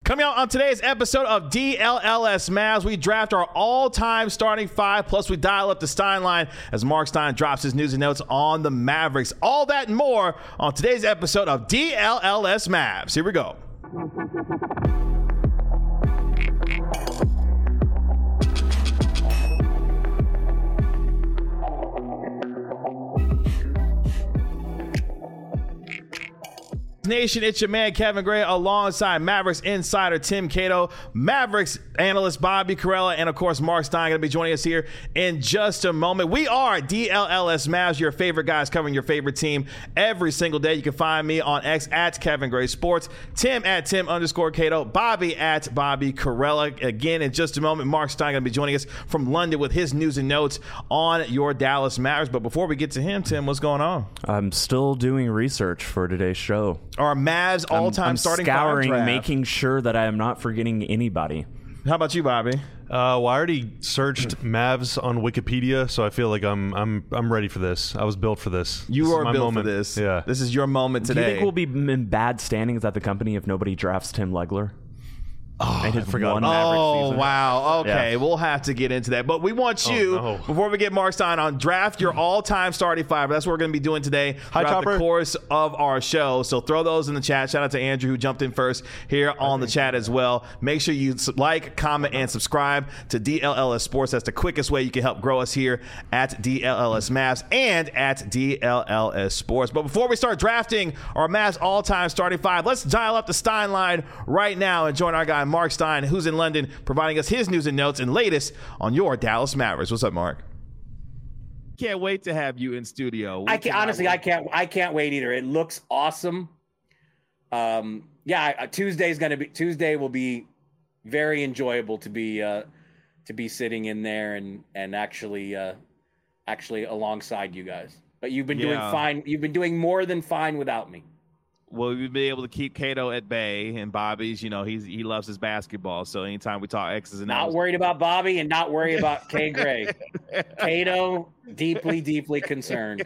Coming out on today's episode of DLLS Mavs, we draft our all-time starting five, plus we dial up the Stein line as Mark Stein drops his news and notes on the Mavericks. All that and more on today's episode of DLLS Mavs. Here we go. Nation, it's your man Kevin Gray alongside Mavericks insider Tim Cato, Mavericks analyst Bobby Karalla, and of course Mark Stein going to be joining us here in just a moment. We are DLLS Mavs, your favorite guys covering your favorite team every single day. You can find me on X at Kevin Gray Sports, Tim at Tim_Cato, Bobby at Bobby Karalla. Again, in just a moment, Mark Stein going to be joining us from London with his news and notes on your Dallas Mavericks. But before we get to him, Tim, what's going on? I'm still doing research for today's show. Our Mavs all-time starting scouring, draft. making sure that I am not forgetting anybody. How about you, Bobby? Well, I already searched Mavs on Wikipedia, so I feel like I'm ready for this. I was built for this. You are built moment. for this. Yeah. This is your moment today. Do you think we'll be in bad standings at the company if nobody drafts Tim Legler? Oh, I forgot. Oh, wow. Okay, we'll have to get into that. But we want you, before we get Mark Stein on, draft your all-time starting five. That's what we're going to be doing today throughout the course of our show. So throw those in the chat. Shout out to Andrew, who jumped in first here on the chat as well. Make sure you like, comment, and subscribe to DLLS Sports. That's the quickest way you can help grow us here at DLLS Mavs and at DLLS Sports. But before we start drafting our Mavs all-time starting five, let's dial up the Stein line right now and join our guy, Mark Stein, who's in London, providing us his news and notes and latest on your Dallas Mavericks. What's up, Mark? Can't wait to have you in studio. I can't wait either. It looks awesome. Tuesday will be very enjoyable to be sitting in there and actually alongside you guys. But you've been doing fine. You've been doing more than fine without me. Well, we've been able to keep Cato at bay, and Bobby's, he loves his basketball. So anytime we talk X's and O's. Not worried about Bobby and not worried about K. Gray. Cato, deeply, deeply concerned.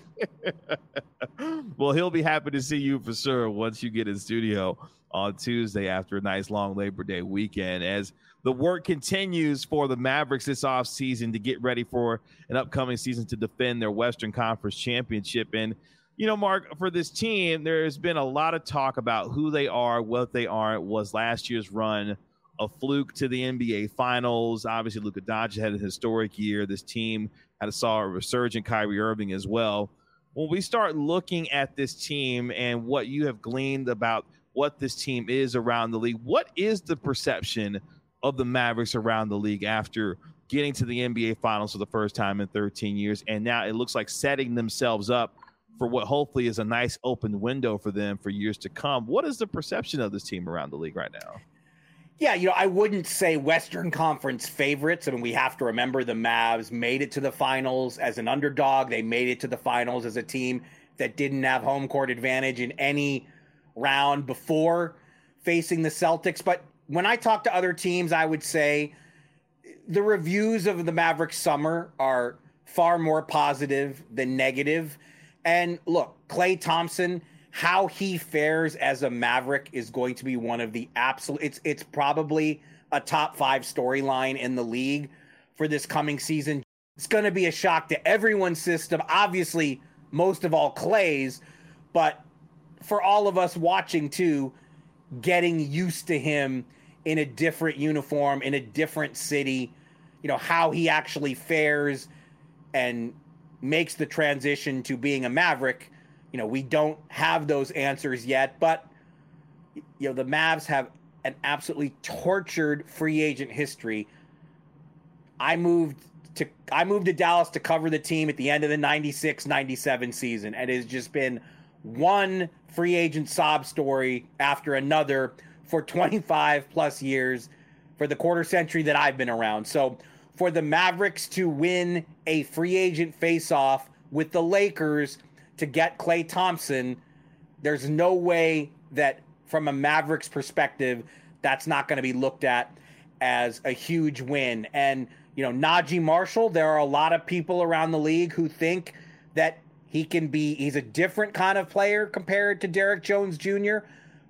Well, he'll be happy to see you for sure once you get in studio on Tuesday after a nice long Labor Day weekend, as the work continues for the Mavericks this offseason to get ready for an upcoming season to defend their Western Conference championship. And Mark, for this team, there's been a lot of talk about who they are, what they aren't. Was last year's run a fluke to the NBA Finals? Obviously, Luka Doncic had a historic year. This team saw a resurgent Kyrie Irving as well. When we start looking at this team and what you have gleaned about what this team is around the league, what is the perception of the Mavericks around the league after getting to the NBA Finals for the first time in 13 years? And now it looks like setting themselves up for what hopefully is a nice open window for them for years to come. What is the perception of this team around the league right now? Yeah, I wouldn't say Western Conference favorites. I mean, we have to remember the Mavs made it to the finals as an underdog. They made it to the finals as a team that didn't have home court advantage in any round before facing the Celtics. But when I talk to other teams, I would say the reviews of the Mavericks summer are far more positive than negative. And look, Klay Thompson, how he fares as a Maverick is going to be one of the absolute, it's probably a top 5 storyline in the league for this coming season. It's going to be a shock to everyone's system, obviously most of all Klay's, but for all of us watching too, getting used to him in a different uniform, in a different city, how he actually fares and makes the transition to being a Maverick. We don't have those answers yet, but the Mavs have an absolutely tortured free agent history. I moved to Dallas to cover the team at the end of the 96-97 season, and it has just been one free agent sob story after another for 25 plus years, for the quarter century that I've been around. So for the Mavericks to win a free agent face-off with the Lakers to get Klay Thompson, there's no way that from a Mavericks perspective, that's not going to be looked at as a huge win. And, Najee Marshall, there are a lot of people around the league who think that he's a different kind of player compared to Derrick Jones Jr.,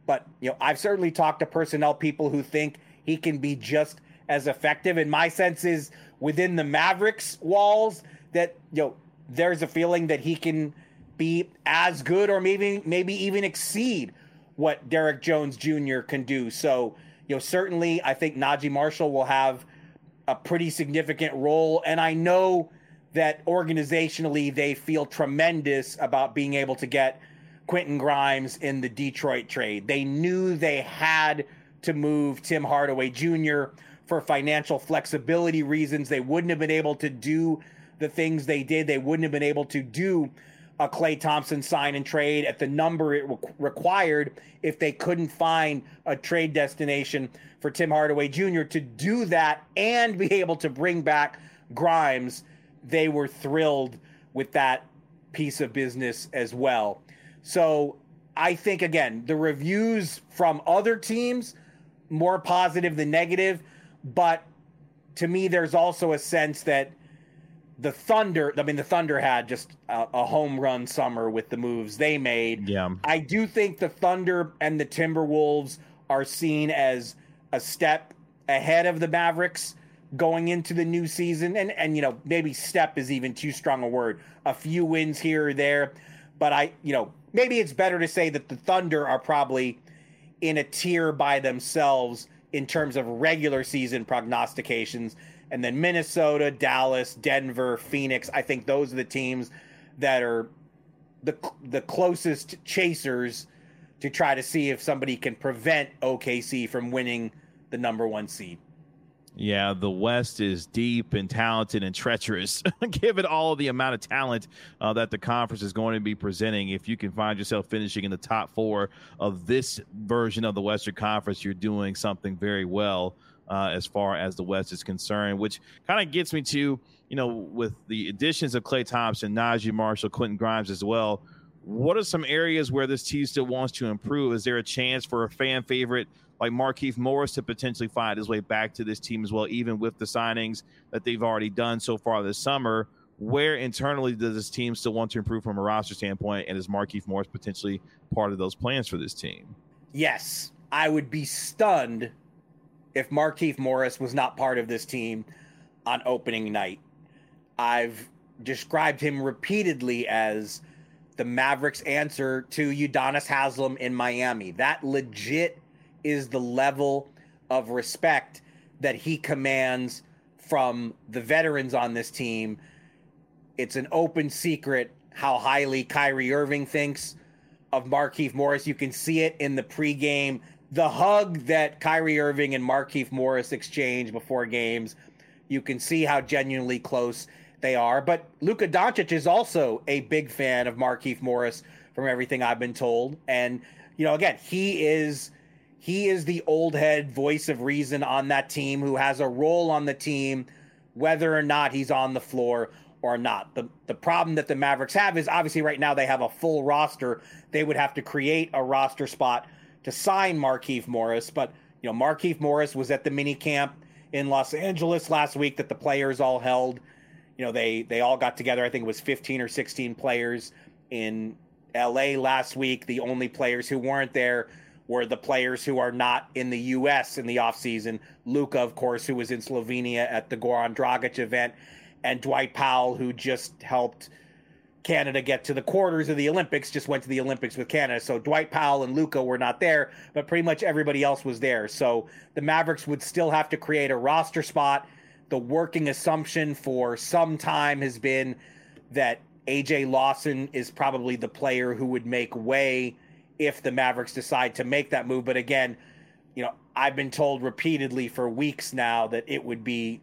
But, I've certainly talked to personnel people who think he can be just as effective. And my sense is within the Mavericks walls that, there's a feeling that he can be as good or maybe even exceed what Derek Jones Jr. can do. So, certainly I think Najee Marshall will have a pretty significant role. And I know that organizationally they feel tremendous about being able to get Quentin Grimes in the Detroit trade. They knew they had to move Tim Hardaway Jr. for financial flexibility reasons. They wouldn't have been able to do the things they did. They wouldn't have been able to do a Klay Thompson sign and trade at the number it required if they couldn't find a trade destination for Tim Hardaway Jr. to do that and be able to bring back Grimes. They were thrilled with that piece of business as well. So I think, again, the reviews from other teams, more positive than negative. But to me, there's also a sense that the Thunder had just a home run summer with the moves they made. Yeah. I do think the Thunder and the Timberwolves are seen as a step ahead of the Mavericks going into the new season. And maybe step is even too strong a word. A few wins here or there. But maybe it's better to say that the Thunder are probably in a tier by themselves in terms of regular season prognostications. And then Minnesota, Dallas, Denver, Phoenix, I think those are the teams that are the closest chasers to try to see if somebody can prevent OKC from winning the number 1 seed. Yeah, the West is deep and talented and treacherous, given all the amount of talent that the conference is going to be presenting. If you can find yourself finishing in the top 4 of this version of the Western Conference, you're doing something very well as far as the West is concerned, which kind of gets me to, with the additions of Klay Thompson, Najee Marshall, Quentin Grimes as well, what are some areas where this team still wants to improve? Is there a chance for a fan favorite like Markieff Morris to potentially find his way back to this team as well, even with the signings that they've already done so far this summer? Where internally does this team still want to improve from a roster standpoint, and is Markieff Morris potentially part of those plans for this team? Yes, I would be stunned if Markieff Morris was not part of this team on opening night. I've described him repeatedly as the Mavericks' answer to Udonis Haslem in Miami. That legit is the level of respect that he commands from the veterans on this team. It's an open secret how highly Kyrie Irving thinks of Markieff Morris. You can see it in the pregame, the hug that Kyrie Irving and Markieff Morris exchange before games. You can see how genuinely close they are. But Luka Doncic is also a big fan of Markieff Morris from everything I've been told. And, again, he is the old head voice of reason on that team who has a role on the team, whether or not he's on the floor or not. The problem that the Mavericks have is obviously right now they have a full roster. They would have to create a roster spot to sign Markieff Morris. But, Markieff Morris was at the mini camp in Los Angeles last week that the players all held. They all got together. I think it was 15 or 16 players in LA last week. The only players who weren't there were the players who are not in the U.S. in the offseason. Luka, of course, who was in Slovenia at the Goran Dragic event, and Dwight Powell, who just helped Canada get to the quarters of the Olympics, just went to the Olympics with Canada. So Dwight Powell and Luka were not there, but pretty much everybody else was there. So the Mavericks would still have to create a roster spot. The working assumption for some time has been that AJ Lawson is probably the player who would make way if the Mavericks decide to make that move. But again, I've been told repeatedly for weeks now that it would be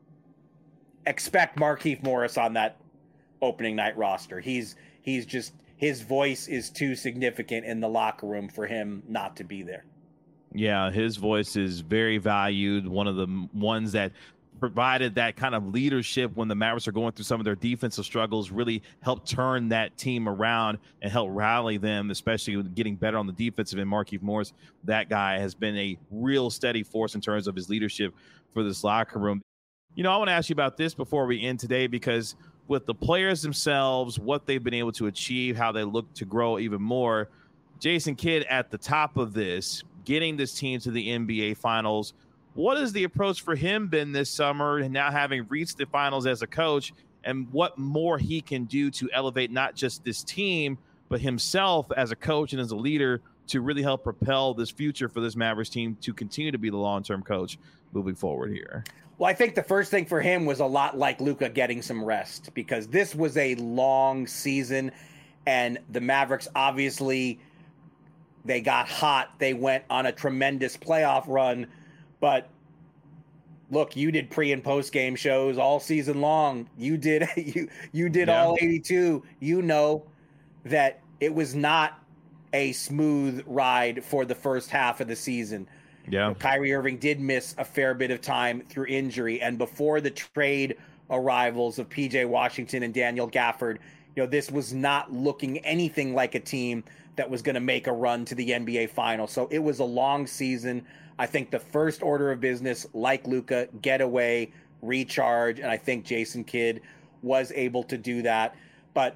expect Markieff Morris on that opening night roster. He's just, his voice is too significant in the locker room for him not to be there. Yeah, his voice is very valued. One of the ones that provided that kind of leadership when the Mavericks are going through some of their defensive struggles, really helped turn that team around and help rally them, especially with getting better on the defensive end. Markieff Morris, that guy has been a real steady force in terms of his leadership for this locker room. I want to ask you about this before we end today, because with the players themselves, what they've been able to achieve, how they look to grow even more, Jason Kidd at the top of this, getting this team to the NBA Finals. What has the approach for him been this summer, and now having reached the finals as a coach, and what more he can do to elevate not just this team, but himself as a coach and as a leader to really help propel this future for this Mavericks team to continue to be the long-term coach moving forward here? Well, I think the first thing for him was a lot like Luka getting some rest, because this was a long season, and the Mavericks obviously, they got hot. They went on a tremendous playoff run, but look, you did pre and post game shows all season long. You did all 82. You know that it was not a smooth ride for the first half of the season. Yeah. Kyrie Irving did miss a fair bit of time through injury, and before the trade arrivals of PJ Washington and Daniel Gafford, this was not looking anything like a team that was going to make a run to the NBA Finals. So it was a long season. I think the first order of business, like Luka, get away, recharge, and I think Jason Kidd was able to do that. But,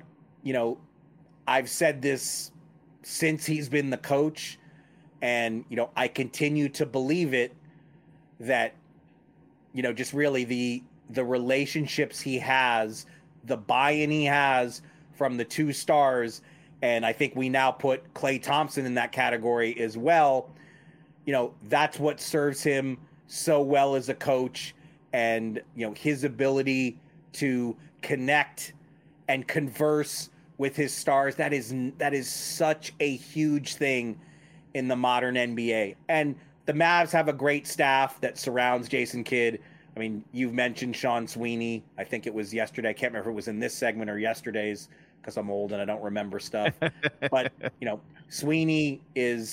I've said this since he's been the coach, and, I continue to believe it, that, just really the relationships he has, the buy-in he has from the two stars, and I think we now put Klay Thompson in that category as well. That's what serves him so well as a coach, and, his ability to connect and converse with his stars. That is such a huge thing in the modern NBA. And the Mavs have a great staff that surrounds Jason Kidd. I mean, you've mentioned Sean Sweeney. I think it was yesterday. I can't remember if it was in this segment or yesterday's, because I'm old and I don't remember stuff. But, Sweeney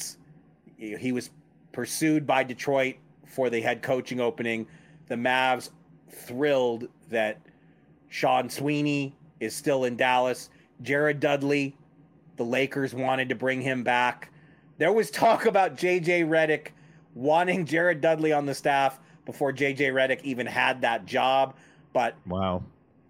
he was pursued by Detroit for the head coaching opening. The Mavs thrilled that Sean Sweeney is still in Dallas. Jared Dudley, the Lakers wanted to bring him back. There was talk about J.J. Redick wanting Jared Dudley on the staff before J.J. Redick even had that job. But, wow,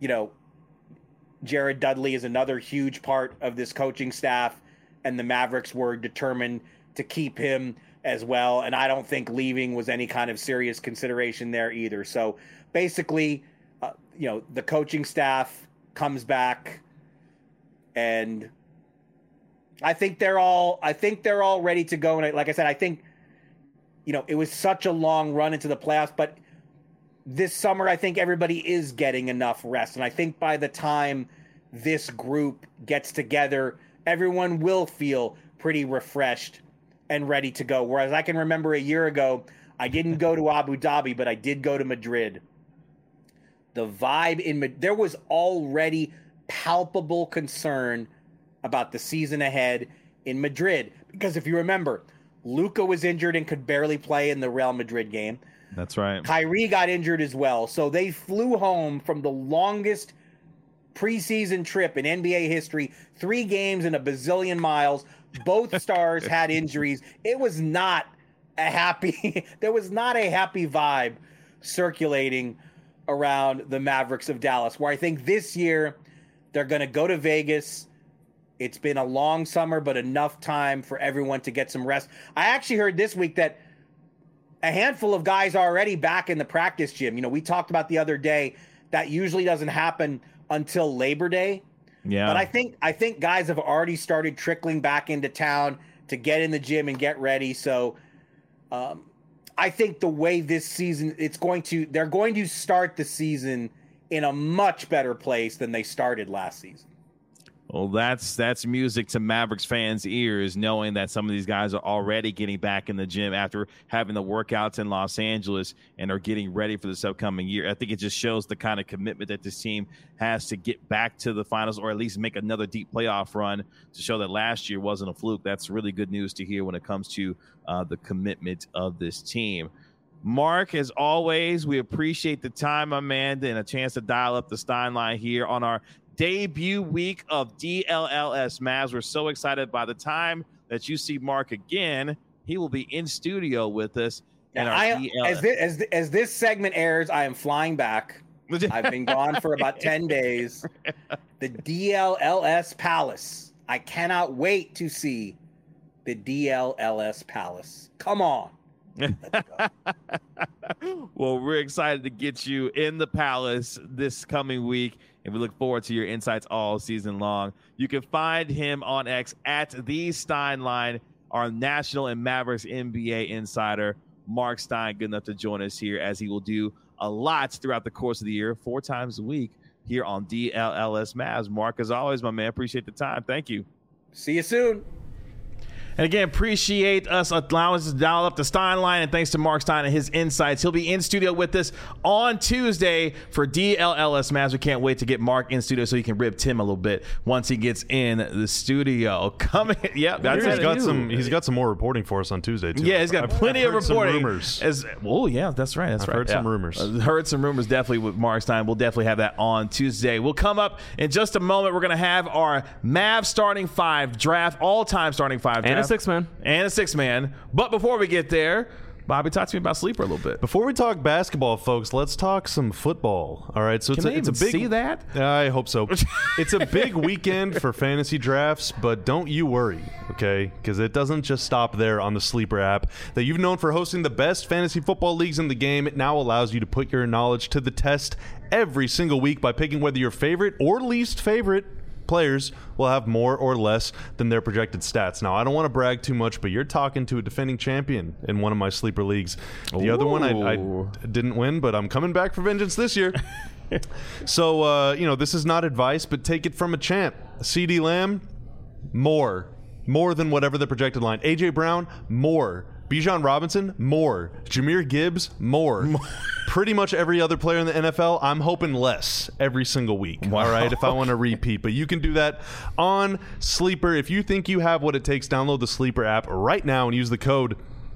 Jared Dudley is another huge part of this coaching staff, and the Mavericks were determined to keep him as well. And I don't think leaving was any kind of serious consideration there either. So basically, the coaching staff comes back, and I think they're all ready to go. And like I said, I think, it was such a long run into the playoffs, but this summer, I think everybody is getting enough rest. And I think by the time this group gets together, everyone will feel pretty refreshed and ready to go. Whereas I can remember a year ago, I didn't go to Abu Dhabi, but I did go to Madrid. The vibe in Madrid, there was already palpable concern about the season ahead in Madrid. Because if you remember, Luka was injured and could barely play in the Real Madrid game. That's right. Kyrie got injured as well. So they flew home from the longest preseason trip in NBA history, 3 games and a bazillion miles. Both stars had injuries. It was not a happy, there was not a happy vibe circulating around the Mavericks of Dallas, where I think this year they're going to go to Vegas. It's been a long summer, but enough time for everyone to get some rest. I actually heard this week that a handful of guys are already back in the practice gym. We talked about the other day that usually doesn't happen until Labor Day. Yeah. But I think guys have already started trickling back into town to get in the gym and get ready. So I think the way this season, they're going to start the season in a much better place than they started last season. Well, that's music to Mavericks fans' ears, knowing that some of these guys are already getting back in the gym after having the workouts in Los Angeles and are getting ready for this upcoming year. I think it just shows the kind of commitment that this team has to get back to the finals, or at least make another deep playoff run, to show that last year wasn't a fluke. That's really good news to hear when it comes to the commitment of this team. Mark, as always, we appreciate the time, my man, and a chance to dial up the Stein line here on our debut week of DLLS Mavs. We're so excited. By the time that you see Mark again, he will be in studio with us. As this segment airs, I am flying back. I've been gone for about 10 days. The DLLS Palace. I cannot wait to see the DLLS Palace. Come on. Let's go. Well, we're excited to get you in the Palace this coming week, and we look forward to your insights all season long. You can find him on X at the Steinline, our National and Mavericks NBA insider. Mark Stein, good enough to join us here, as he will do a lot throughout the course of the year, 4 times a week here on DLLS Mavs. Mark, as always, my man, appreciate the time. Thank you. See you soon. And again, appreciate us allowing us to dial up the Steinline, and thanks to Mark Stein and his insights. He'll be in studio with us on Tuesday for DLLS Mavs. We can't wait to get Mark in studio so he can rib Tim a little bit once he gets in the studio. Coming, yeah, that's it. He's got some more reporting for us on Tuesday too. Yeah, he's got plenty of reporting. Some rumors. Yeah, that's right. I've heard some rumors. Heard some rumors definitely with Mark Stein. We'll definitely have that on Tuesday. We'll come up in just a moment. We're going to have our Mavs starting 5 draft, all-time starting 5 draft. And a 6-man. And a 6-man. But before we get there, Bobby, talk to me about Sleeper a little bit. Before we talk basketball, folks, let's talk some football. All right, so it's a big. See that? I hope so. It's a big weekend for fantasy drafts, but don't you worry, okay? Because it doesn't just stop there on the Sleeper app that you've known for hosting the best fantasy football leagues in the game. It now allows you to put your knowledge to the test every single week by picking whether your favorite or least favorite players will have more or less than their projected stats. Now, I don't want to brag too much, but you're talking to a defending champion in one of my Sleeper leagues. The other one I didn't win, but I'm coming back for vengeance this year. So, this is not advice, but take it from a champ. CeeDee Lamb, more than whatever the projected line. A.J. Brown, more. Bijan Robinson, more. Jahmyr Gibbs, more. Pretty much every other player in the NFL, I'm hoping less every single week. Wow. All right, if I want to repeat. But you can do that on Sleeper. If you think you have what it takes, download the Sleeper app right now and use the code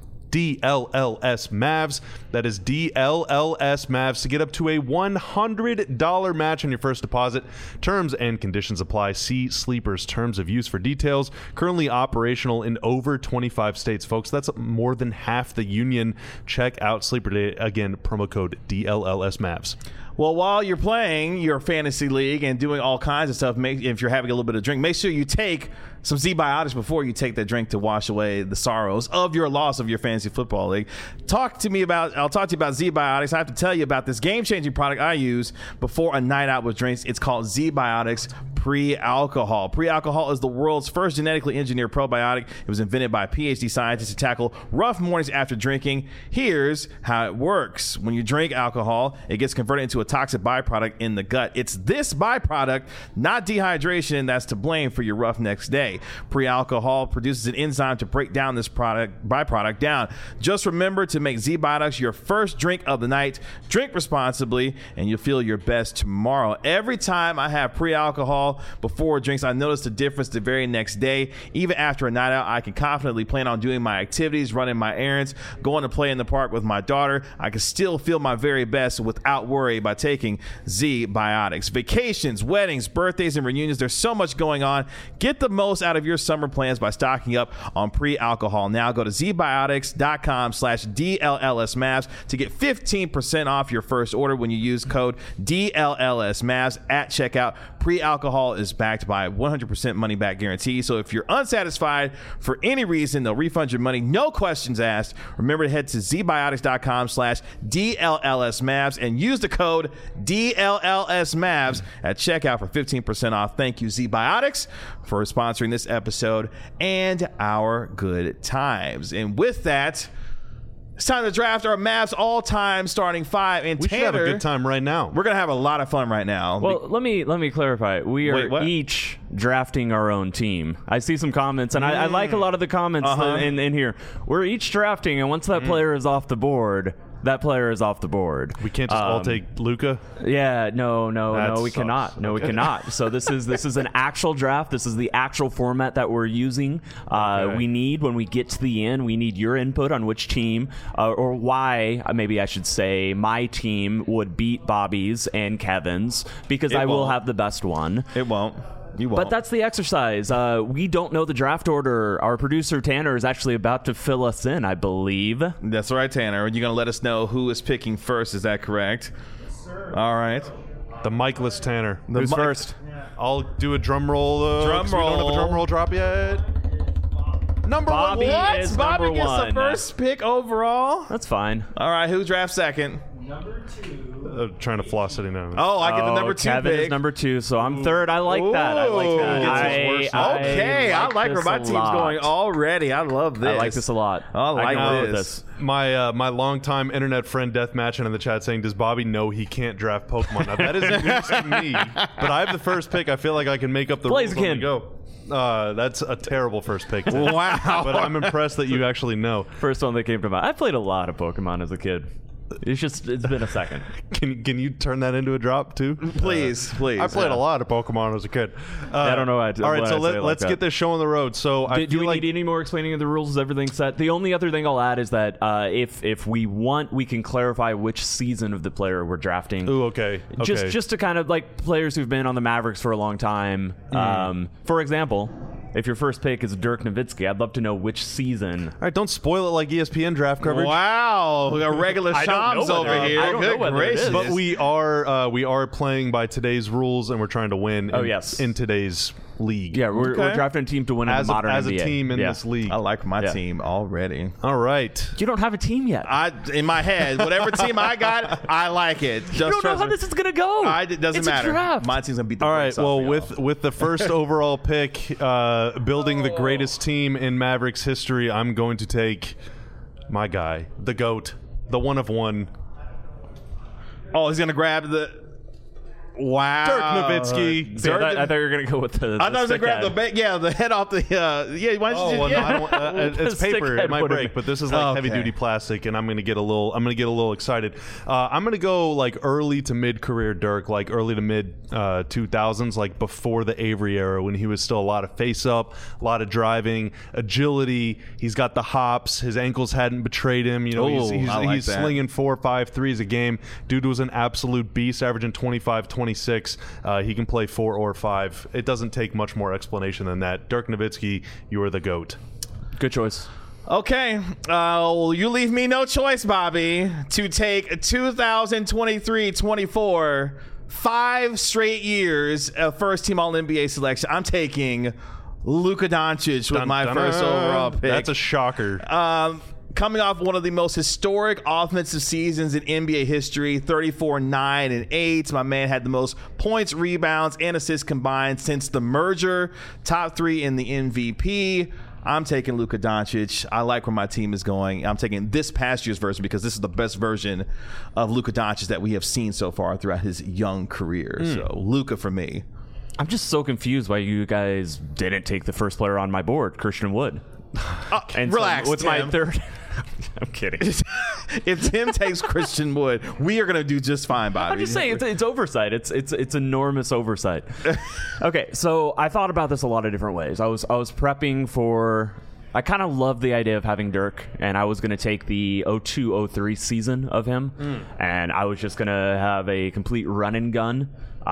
DLLS Mavs. That is DLLS Mavs to get up to a $100 match on your first deposit. Terms and conditions apply. See Sleeper's terms of use for details. Currently operational in over 25 states, folks. That's more than half the union. Check out Sleeper today. Again, promo code DLLS Mavs. Well, while you're playing your fantasy league and doing all kinds of stuff, if you're having a little bit of drink, make sure you take some Z-Biotics before you take that drink to wash away the sorrows of your loss of your fantasy football league. I'll talk to you about Z-Biotics. I have to tell you about this game-changing product I use before a night out with drinks. It's called Z-Biotics Pre-Alcohol. Pre-Alcohol is the world's first genetically engineered probiotic. It was invented by PhD scientists to tackle rough mornings after drinking. Here's how it works. When you drink alcohol, it gets converted into a toxic byproduct in the gut. It's this byproduct, not dehydration, that's to blame for your rough next day. Pre-alcohol produces an enzyme to break down this byproduct down. Just remember to make Z-Biotics your first drink of the night. Drink responsibly, and you'll feel your best tomorrow. Every time I have pre-alcohol before drinks, I notice the difference the very next day. Even after a night out, I can confidently plan on doing my activities, running my errands, going to play in the park with my daughter. I can still feel my very best without worry by taking Z-Biotics. Vacations, weddings, birthdays, and reunions. There's so much going on. Get the most out of your summer plans by stocking up on pre-alcohol. Now go to zbiotics.com/DLLSMavs to get 15% off your first order when you use code DLLSMavs at checkout. Pre-alcohol is backed by 100% money back guarantee. So if you're unsatisfied for any reason, they'll refund your money. No questions asked. Remember to head to zbiotics.com/DLLSMavs and use the code DLLSMavs at checkout for 15% off. Thank you, Z-Biotics, for sponsoring this episode and our good times. And with that, it's time to draft our Mavs all-time starting 5. And we should have a good time right now. We're going to have a lot of fun right now. Well, let me clarify. We are each drafting our own team. I see some comments, and I like a lot of the comments in here. We're each drafting, and once that player is off the board, that player is off the board. We can't just all take Luka? Yeah, no, we cannot. No, we cannot. So this is an actual draft. This is the actual format that we're using. We need, when we get to the end, we need your input on which team or why, maybe I should say, my team would beat Bobby's and Kevin's, because I will have the best one. It won't. You won't. But that's the exercise. We don't know the draft order. Our producer, Tanner, is actually about to fill us in, I believe. That's right, Tanner. You're going to let us know who is picking first. Is that correct? Yes, sir. All right. The Micheless Tanner. Who's first? I'll do a drum roll. Drum roll. We don't have a drum roll drop yet. Number Bobby one. is Bobby number gets one. the first pick overall. That's fine. All right, who drafts second? Number 2. Trying to floss it in now. Oh, I get the number 2 Kevin pick. is number 2, so I'm third. I like that. I like that. Okay, I like where my team's going already. I love this. I like this a lot. I like this. My longtime internet friend Deathmatching in the chat saying, "Does Bobby know he can't draft Pokemon?" Now that is news to me, but I have the first pick. I feel like I can make up the rules on the go. That's a terrible first pick. Wow. But I'm impressed that you actually know. First one that came to mind. I played a lot of Pokemon as a kid. It's been a second. Can you turn that into a drop too? Please. I played a lot of Pokemon as a kid. I don't know. All right, so let's get this show on the road. So do we need any more explaining of the rules? Is everything set? The only other thing I'll add is that if we want, we can clarify which season of the player we're drafting. Ooh, okay. Just to kind of like players who've been on the Mavericks for a long time. For example, if your first pick is Dirk Nowitzki, I'd love to know which season. All right, don't spoil it like ESPN draft coverage. Wow, we got regular Shams over here. I don't know whether it is. But we are playing by today's rules, and we're trying to win. In today's league. Yeah, we're drafting a team to win in the modern as NBA. a team in this league. I like my team already. All right. You don't have a team yet. In my head, whatever team I got, I like it. Just you don't know how this is gonna go. It doesn't matter. A draft. My team's gonna beat the All right. Well, with the first overall pick, building the greatest team in Mavericks history, I'm going to take my guy, the GOAT, the one of one. Oh, he's gonna grab the. Wow, Dirk Nowitzki. I thought you were gonna go with the. I thought I was gonna grab the head off the. Why don't you just, I don't, it's paper. It might break, but this is like heavy duty plastic, and I'm gonna get a little excited. I'm gonna go like early to mid career Dirk, like early to mid 2000s, like before the Avery era, when he was still a lot of face up, a lot of driving, agility. He's got the hops. His ankles hadn't betrayed him. You know, he's slinging 4 or 5 threes a game. Dude was an absolute beast, averaging 25, 26. He can play 4 or 5. It doesn't take much more explanation than that. Dirk Nowitzki, you are the GOAT. Good choice. Okay. You leave me no choice, Bobby, to take 2023-24, 5 straight years of first-team All-NBA selection. I'm taking Luka Doncic with my first overall pick. That's a shocker. Coming off one of the most historic offensive seasons in NBA history, 34, 9, and 8. My man had the most points, rebounds, and assists combined since the merger. Top 3 in the MVP. I'm taking Luka Doncic. I like where my team is going. I'm taking this past year's version because this is the best version of Luka Doncic that we have seen so far throughout his young career. So Luka for me. I'm just so confused why you guys didn't take the first player on my board, Christian Wood. And relax. So what's Tim. my third? I'm kidding. If Tim takes Christian Wood, we are going to do just fine, Bobby. I'm just saying it's oversight. It's enormous oversight. Okay, so I thought about this a lot of different ways. I was prepping for. I kind of love the idea of having Dirk, and I was going to take the 02-03 season of him, and I was just going to have a complete run and gun.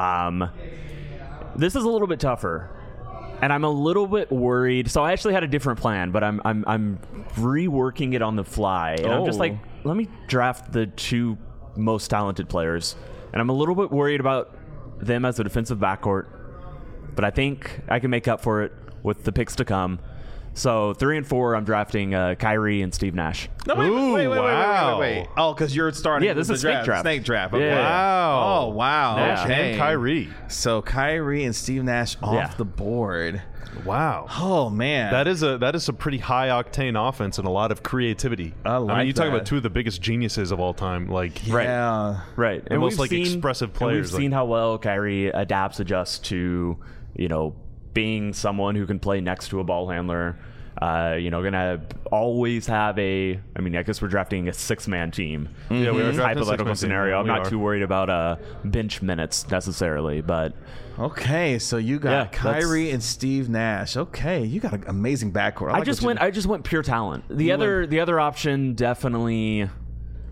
This is a little bit tougher. And I'm a little bit worried. So I actually had a different plan, but I'm reworking it on the fly. And I'm just like, let me draft the 2 most talented players. And I'm a little bit worried about them as a defensive backcourt. But I think I can make up for it with the picks to come. So 3 and 4, I'm drafting Kyrie and Steve Nash. No, wait. Oh, because you're starting. Yeah, this is snake draft. Snake draft. Okay. Yeah. Wow. Oh, wow. Nash Okay. and Kyrie. So Kyrie and Steve Nash off the board. Wow. Oh man, that is a pretty high octane offense and a lot of creativity. I mean, you talk about 2 of the biggest geniuses of all time. Like, right. The most expressive players. We've seen how well Kyrie adjusts to, being someone who can play next to a ball handler. Gonna always have I guess we're drafting a 6-man team. Yeah, we are hypothetical scenario. I'm not too worried about bench minutes necessarily, but okay. So you got Kyrie and Steve Nash. Okay, you got an amazing backcourt. I just went pure talent. The other option definitely.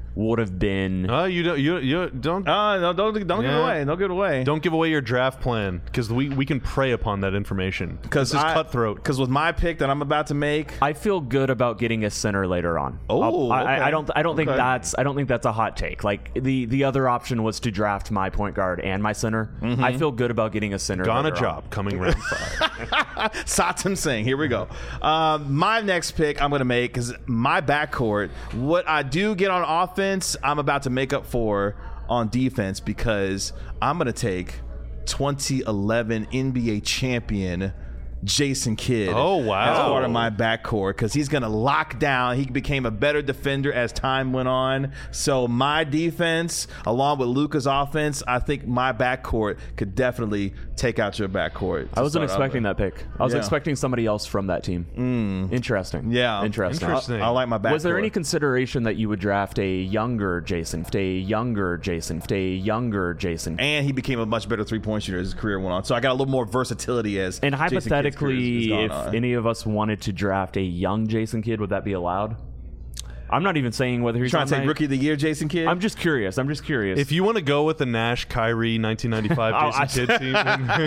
would have been. You don't. No, don't give it away. Don't give it away. Don't give away your draft plan because we can prey upon that information. Because it's cutthroat. Because with my pick that I'm about to make, I feel good about getting a center later on. Oh, okay. I don't think that's a hot take. Like the other option was to draft my point guard and my center. Mm-hmm. I feel good about getting a center. Ghana job coming round 5. Satem Singh. Here we go. My next pick I'm going to make is my backcourt. What I do get on offense, I'm about to make up for on defense because I'm going to take 2011 NBA champion Jason Kidd. Oh, wow. As part of my backcourt because he's going to lock down. He became a better defender as time went on. So my defense, along with Luka's offense, I think my backcourt could definitely take out your backcourt. I wasn't expecting that pick. I was expecting somebody else from that team. Interesting. Yeah. Interesting. I like my backcourt. Was there any consideration that you would draft a younger Jason, a younger Jason, a younger Jason? And he became a much better three-point shooter as his career went on. So I got a little more versatility as and hypothetically, if on. any of us wanted to draft a young Jason Kidd, would that be allowed? I'm not even saying whether he's trying to take Rookie of the Year, Jason Kidd. I'm just curious. If you want to go with the Nash, Kyrie, 1995 Jason Kidd team,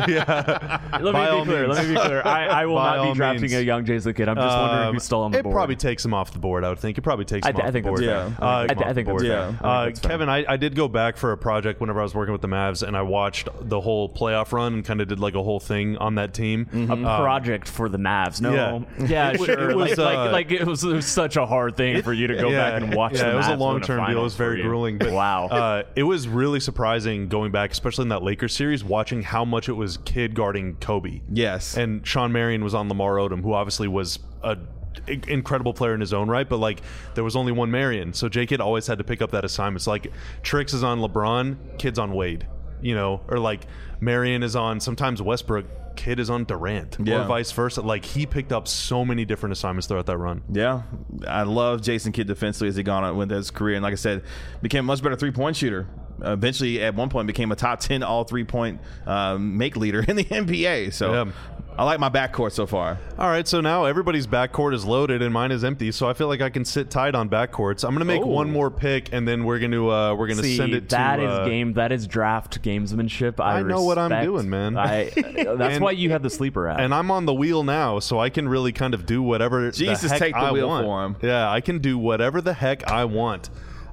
Let me be clear. I will not be drafting a young Jason Kidd. I'm just wondering who's still on the board. It probably takes him off the board. I would think it probably takes him off the board. I think that's fair. Kevin, I did go back for a project whenever I was working with the Mavs, and I watched the whole playoff run and kind of did like a whole thing on that team. A project for the Mavs. No, yeah, sure. It was such a hard thing for you to go back and watch. Yeah, it was a long-term deal. It was very grueling. But wow, it was really surprising going back, especially in that Lakers series, watching how much it was Kidd guarding Kobe. Yes, and Sean Marion was on Lamar Odom, who obviously was a incredible player in his own right, but like there was only one Marion, so J. Kidd always had to pick up that assignment. It's like Trix is on LeBron, Kidd's on Wade, or like Marion is on sometimes Westbrook, Kidd is on Durant, or vice versa. Like he picked up so many different assignments throughout that run. Yeah, I love Jason Kidd defensively as he gone on with his career, and like I said, became a much better three-point shooter. Eventually, at one point, became a top 10 all three-point make leader in the NBA. So I like my backcourt so far. All right, so now everybody's backcourt is loaded and mine is empty, so I feel like I can sit tight on backcourts. I'm going to make one more pick, and then we're going to send it to. That is draft gamesmanship. I know what I'm doing, man. That's why you had the sleeper app. And I'm on the wheel now, so I can really kind of do whatever Jesus, the heck take the I wheel want. for him. Yeah, I can do whatever the heck I want.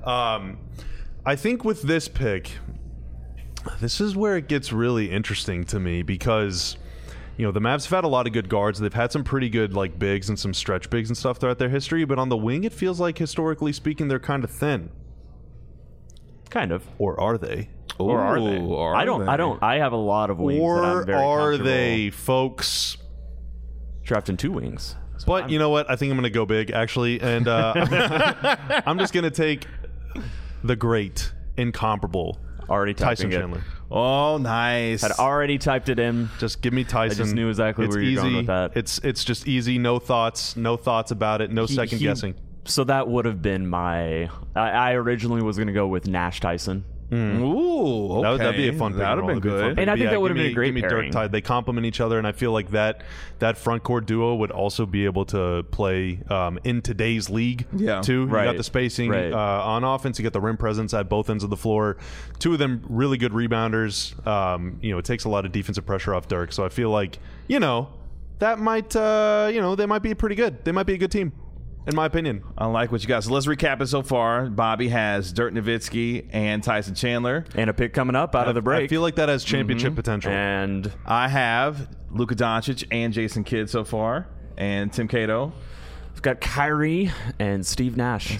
I think with this pick, this is where it gets really interesting to me because, the Mavs have had a lot of good guards. They've had some pretty good like bigs and some stretch bigs and stuff throughout their history, but on the wing, it feels like historically speaking, they're kind of thin. Kind of. Or are they? Or are they? I don't. I have a lot of wings. Or that I'm very are they, folks? Drafting two wings. But you know what? I think I'm going to go big, actually. And I'm just going to take the great, incomparable Tyson Chandler. Oh, nice. Had already typed it in. Just give me Tyson. I just knew exactly where you're going with that. It's just easy. No thoughts about it. No second guessing. So that would have been my... I originally was going to go with Nash Tyson. Ooh, okay. That'd be a fun pick. That would have been good. And I think that would have been a great pairing. Dirk, they complement each other, and I feel like that front court duo would also be able to play in today's league, too. Right. You got the spacing on offense. You got the rim presence at both ends of the floor. Two of them really good rebounders. It takes a lot of defensive pressure off Dirk, so I feel like, that might, they might be pretty good. They might be a good team. In my opinion. I like what you got. So let's recap it so far. Bobby has Dirk Nowitzki and Tyson Chandler. And a pick coming up out of the break. I feel like that has championship potential. And I have Luka Doncic and Jason Kidd so far. And Tim Cato. We've got Kyrie and Steve Nash.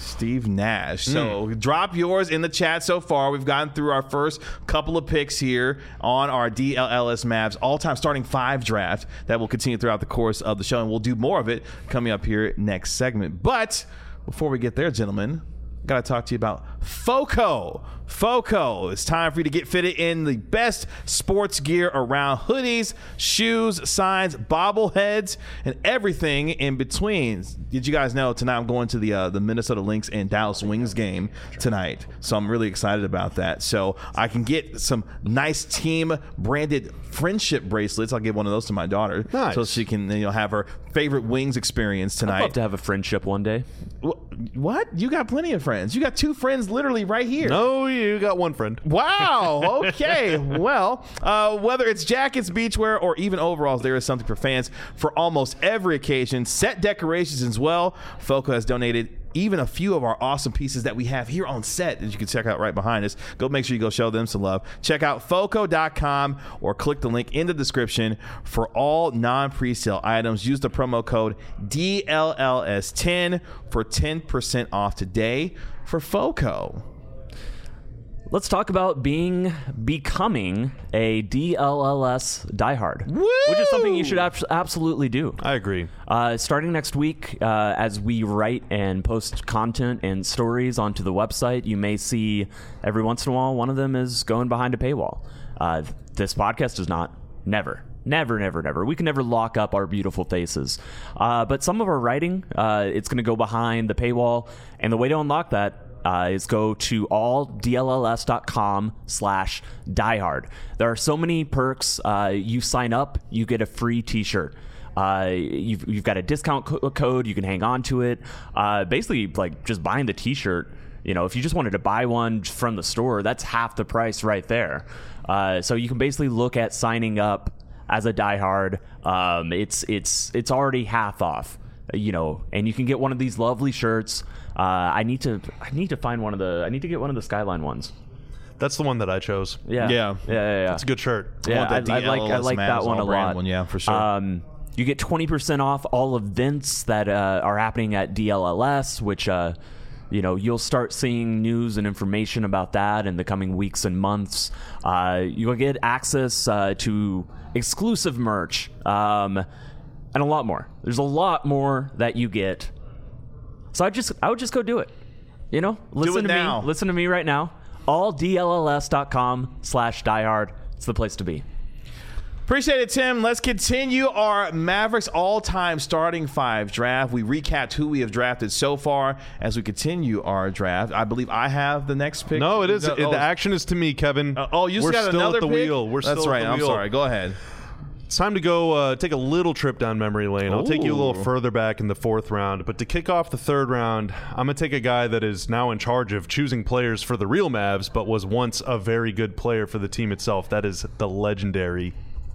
So drop yours in the chat so far. We've gotten through our first couple of picks here on our DLLS Mavs all-time starting 5 draft that will continue throughout the course of the show, and we'll do more of it coming up here next segment. But before we get there, gentlemen, got to talk to you about FOCO. FOCO. It's time for you to get fitted in the best sports gear around. Hoodies, shoes, signs, bobbleheads, and everything in between. Did you guys know tonight I'm going to the Minnesota Lynx and Dallas Wings game tonight? So I'm really excited about that. So I can get some nice team branded friendship bracelets. I'll give one of those to my daughter. Nice. So she can have her favorite wings experience tonight. I'd love to have a friendship one day. What? You got plenty of friends. You got 2 friends literally right here. No, you got 1 friend. Wow. Okay. Well, whether it's jackets, beachwear, or even overalls, there is something for fans for almost every occasion. Set decorations as well. Foco has donated even a few of our awesome pieces that we have here on set that you can check out right behind us. Go make sure you go show them some love. Check out foco.com or click the link in the description for all non-presale items. Use the promo code DLLS10 for 10% off today for Foco. Let's talk about becoming a DLLS diehard, which is something you should absolutely do. I agree. Starting next week, as we write and post content and stories onto the website, you may see every once in a while one of them is going behind a paywall. This podcast is not. Never. We can never lock up our beautiful faces. But some of our writing, it's going to go behind the paywall. And the way to unlock that is go to alldlls.com/diehard. There are so many perks. You sign up, you get a free t-shirt. You've got a discount code. You can hang on to it. Basically, like just buying the t-shirt. You know, if you just wanted to buy one from the store, that's half the price right there. So you can basically look at signing up as a diehard. It's already half off. You know, and you can get one of these lovely shirts. I need to find one of the. I need to get one of the Skyline ones. That's the one that I chose. Yeah. It's a good shirt. Yeah, I like that one a lot. Yeah, for sure. You get 20% off all events that are happening at DLLS, which you'll start seeing news and information about that in the coming weeks and months. You'll get access to exclusive merch and a lot more. There's a lot more that you get. So I would just go do it. You know, listen to me right now. alldlls.com/diehard. It's the place to be. Appreciate it, Tim. Let's continue our Mavericks all-time starting 5 draft. We recapped who we have drafted so far as we continue our draft. I believe I have the next pick. No, it is. The action is to me, Kevin. You We're got still another at the pick? wheel. We're That's still right. at the I'm wheel. sorry. Go ahead. It's time to go take a little trip down memory lane. I'll take you a little further back in the 4th round. But to kick off the 3rd round, I'm going to take a guy that is now in charge of choosing players for the real Mavs, but was once a very good player for the team itself. That is the legendary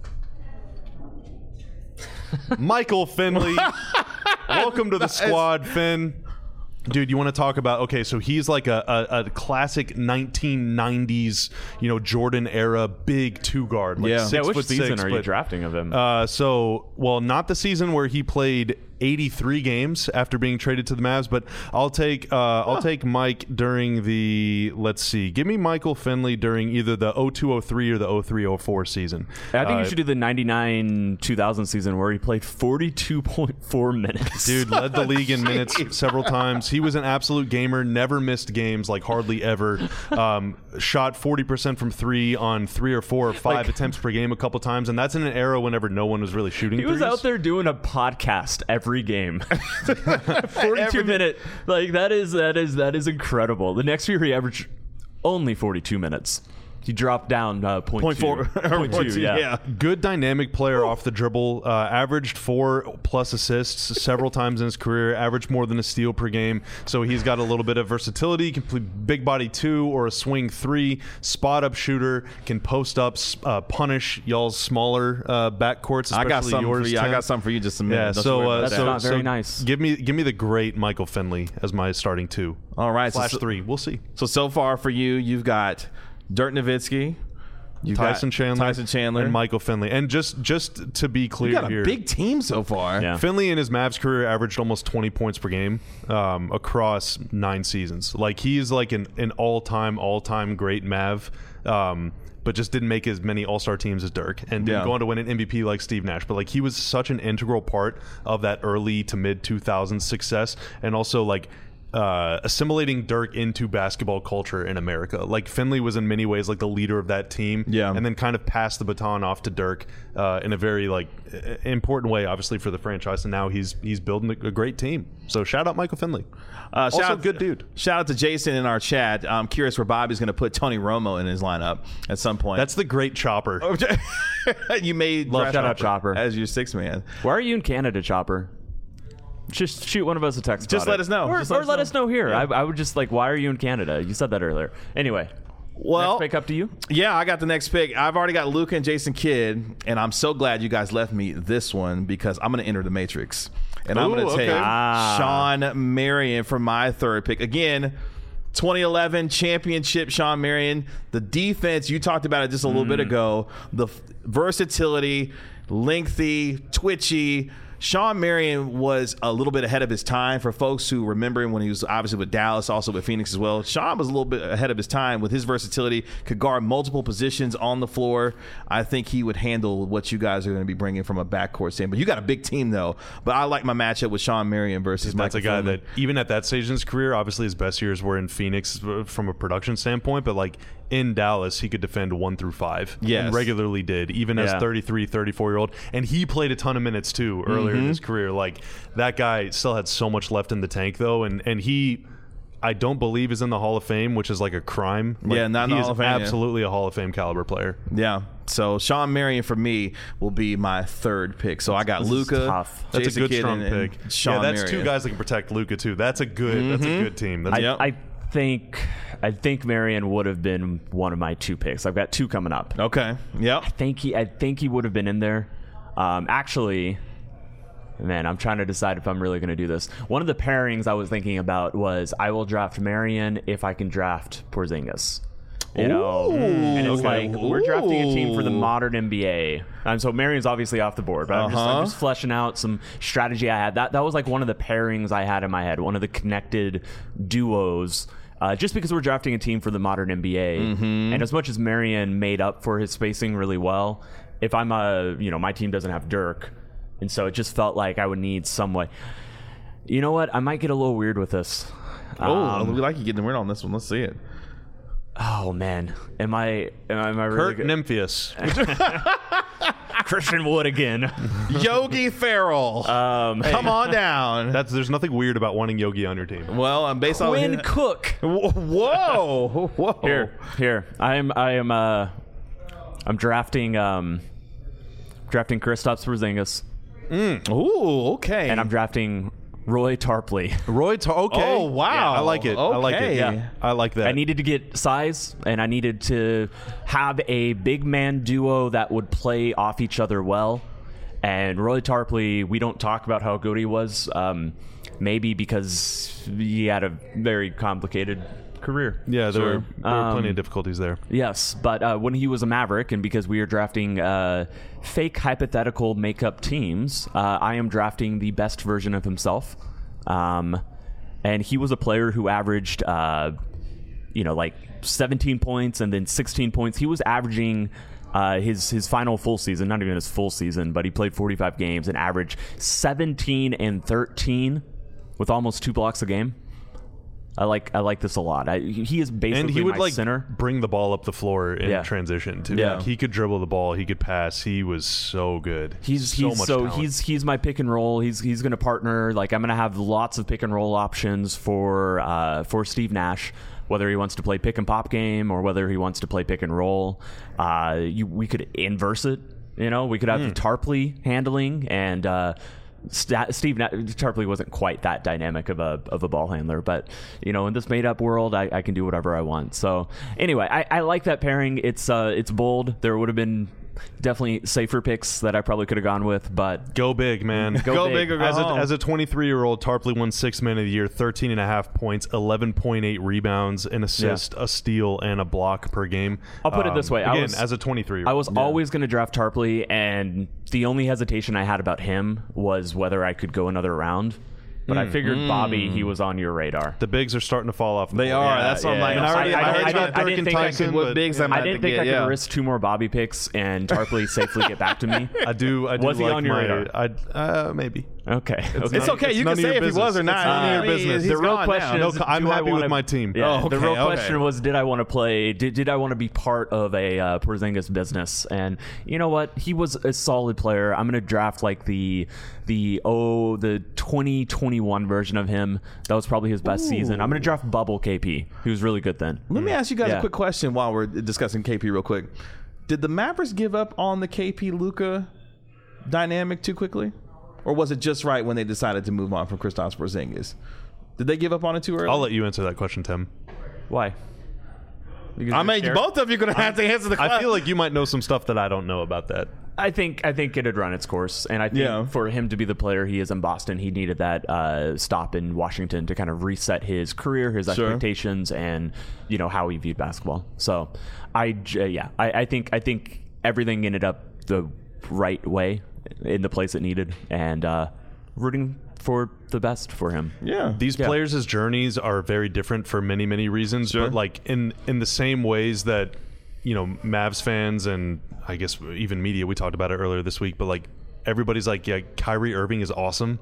Michael Finley. Welcome to the squad, Finn. Dude, you want to talk about, okay, so he's like a classic 1990s, Jordan era big 2-guard. Like 6'6". Which season are you drafting of him? Not the season where he played 83 games after being traded to the Mavs, but I'll take Mike during the, let's see, give me Michael Finley during either the 02-03 or the 03-04 season. I think you should do the 99-2000 season where he played 42.4 minutes. Dude, led the league in minutes several times. He was an absolute gamer, never missed games, like hardly ever. Shot 40% from 3 on 3 or 4 or 5 attempts per game a couple times, and that's in an era whenever no one was really shooting threes. He was out there doing a podcast every game. 42 minute, like that is incredible. The next year he averaged only 42 minutes. He dropped down 0.2. Yeah. Good dynamic player off the dribble. Averaged 4+ assists several times in his career. Averaged more than a steal per game. So he's got a little bit of versatility. Can play big body 2 or a swing 3. Spot up shooter. Can post up, punish y'all's smaller backcourts. Especially I got something yours, for you. Tim. I got something for you. Just a minute. Yeah. That's not very nice. Give me the great Michael Finley as my starting 2. All right. /3. We'll see. So far for you, you've got Dirk Nowitzki, Tyson Chandler, and Michael Finley. And just to be clear, you got a here, big team so far. Yeah. Finley in his Mavs career averaged almost 20 points per game across 9 seasons. Like he's like an all-time great Mav. But just didn't make as many all-star teams as Dirk and didn't go on to win an MVP like Steve Nash. But like he was such an integral part of that early to mid 2000s success, and also like assimilating Dirk into basketball culture in America. Like Finley was in many ways like the leader of that team, and then kind of passed the baton off to Dirk in a very like important way, obviously for the franchise. And now he's building a great team. So shout out Michael Finley. Also, good dude. Shout out to Jason in our chat. I'm curious where Bobby's going to put Tony Romo in his lineup at some point. That's the great Chopper. You made shout out Chopper as your sixth man. Why are you in Canada, Chopper? Just shoot one of us a text. Just let us know. Or let us know here. Yeah. I would just like, why are you in Canada? You said that earlier. Anyway. Well, next pick up to you. Yeah, I got the next pick. I've already got Luka and Jason Kidd, and I'm so glad you guys left me this one because I'm going to enter the Matrix. And I'm going to take Shawn Marion for my third pick. Again, 2011 championship Shawn Marion. The defense, you talked about it just a little bit ago. The versatility, lengthy, twitchy. Shawn Marion was a little bit ahead of his time for folks who remember him when he was obviously with Dallas, also with Phoenix as well. Shawn was a little bit ahead of his time with his versatility, could guard multiple positions on the floor. I think he would handle what you guys are going to be bringing from a backcourt standpoint. You got a big team, though, but I like my matchup with Shawn Marion versus Michael. That's a guy that, even at that stage in his career, obviously his best years were in Phoenix from a production standpoint, but like in Dallas, he could defend 1 through 5. Yes. And regularly did, even as 33, 34-year-old. And he played a ton of minutes, too, earlier in his career. Like, that guy still had so much left in the tank, though. And he, I don't believe, is in the Hall of Fame, which is like a crime. Like, not in the Hall of Fame. Absolutely a Hall of Fame caliber player. Yeah. So Shawn Marion for me will be my third pick. So I got Luka. That's a good strong pick. Shawn that's Marion. Two guys that can protect Luka, too. That's a good team. I think Marion would have been one of my 2 picks. I've got 2 coming up. Okay. Yep. I think he would have been in there. Actually, man, I'm trying to decide if I'm really going to do this. One of the pairings I was thinking about was I will draft Marion if I can draft Porzingis. You know, and it's like we're drafting a team for the modern NBA, and so Marion's obviously off the board. But I'm just fleshing out some strategy I had. That was like one of the pairings I had in my head, one of the connected duos. Just because we're drafting a team for the modern NBA, and as much as Marion made up for his spacing really well, if I'm my team doesn't have Dirk, and so it just felt like I would need some way. You know what? I might get a little weird with this. We like you getting weird on this one. Let's see it. Oh man, am I really Kurt good? Nymphius. Christian Wood again. Yogi Ferrell. Come on down. There's nothing weird about wanting Yogi on your team. Well, I'm based on Quinn Cook. Whoa. Here. I'm drafting Kristaps Porzingis. Ooh, okay. And I'm drafting Roy Tarpley. Okay. Oh, wow. Yeah, I like it. Okay. I like it. Yeah. I like that. I needed to get size, and I needed to have a big man duo that would play off each other well. And Roy Tarpley, we don't talk about how good he was, maybe because he had a very complicated career. Yeah, there were plenty of difficulties there. Yes, but when he was a Maverick, and because we are drafting fake hypothetical makeup teams, I am drafting the best version of himself. And he was a player who averaged, like 17 points and then 16 points. He was averaging his final full season, not even his full season, but he played 45 games and averaged 17 and 13 with almost 2 blocks a game. I like this a lot. He is basically and he would my center. Bring the ball up the floor in transition too. Yeah, he could dribble the ball. He could pass. He was so good. He's my pick and roll. He's going to partner. Like I'm going to have lots of pick and roll options for Steve Nash, whether he wants to play pick and pop game or whether he wants to play pick and roll. We could inverse it. We could have Tarpley handling and. Steve Tarpley wasn't quite that dynamic of a ball handler, but in this made up world, I can do whatever I want. So anyway, I like that pairing. It's bold. There would have been definitely safer picks that I probably could have gone with, but go big, man. Go big or go home. As a 23-year-old, Tarpley won 6th Man of the Year, 13.5 points, 11.8 rebounds, an assist, a steal, and a block per game. I'll put it this way. As a 23-year-old. I was always going to draft Tarpley, and the only hesitation I had about him was whether I could go another round. But I figured Bobby, he was on your radar. The bigs are starting to fall off. They are. That's what I'm like. I didn't think I could risk 2 more Bobby picks and Tarpley safely get back to me. I do. Was he like on your radar? Maybe. Okay. It's okay. You can say if he was or not. It's none of your business. The real question is, I'm happy with my team. Yeah, the real question was, did I want to play? Did I want to be part of a Porzingis business? And you know what? He was a solid player. I'm going to draft like the 2021 version of him. That was probably his best season. I'm going to draft Bubble KP. He was really good then. Let me ask you guys a quick question while we're discussing KP real quick. Did the Mavericks give up on the KP-Luka dynamic too quickly? Or was it just right when they decided to move on from Kristaps Porzingis? Did they give up on it too early? I'll let you answer that question, Tim. Why? Both of you are going to have to answer the question. I feel like you might know some stuff that I don't know about that. I think it had run its course, and I think for him to be the player he is in Boston, he needed that stop in Washington to kind of reset his career, his expectations, and how he viewed basketball. So, I think everything ended up the right way in the place it needed, and rooting for the best for him. These players' journeys are very different for many, many reasons, but like in the same ways that Mavs fans and I guess even media, we talked about it earlier this week, but like everybody's like, yeah, Kyrie Irving is awesome.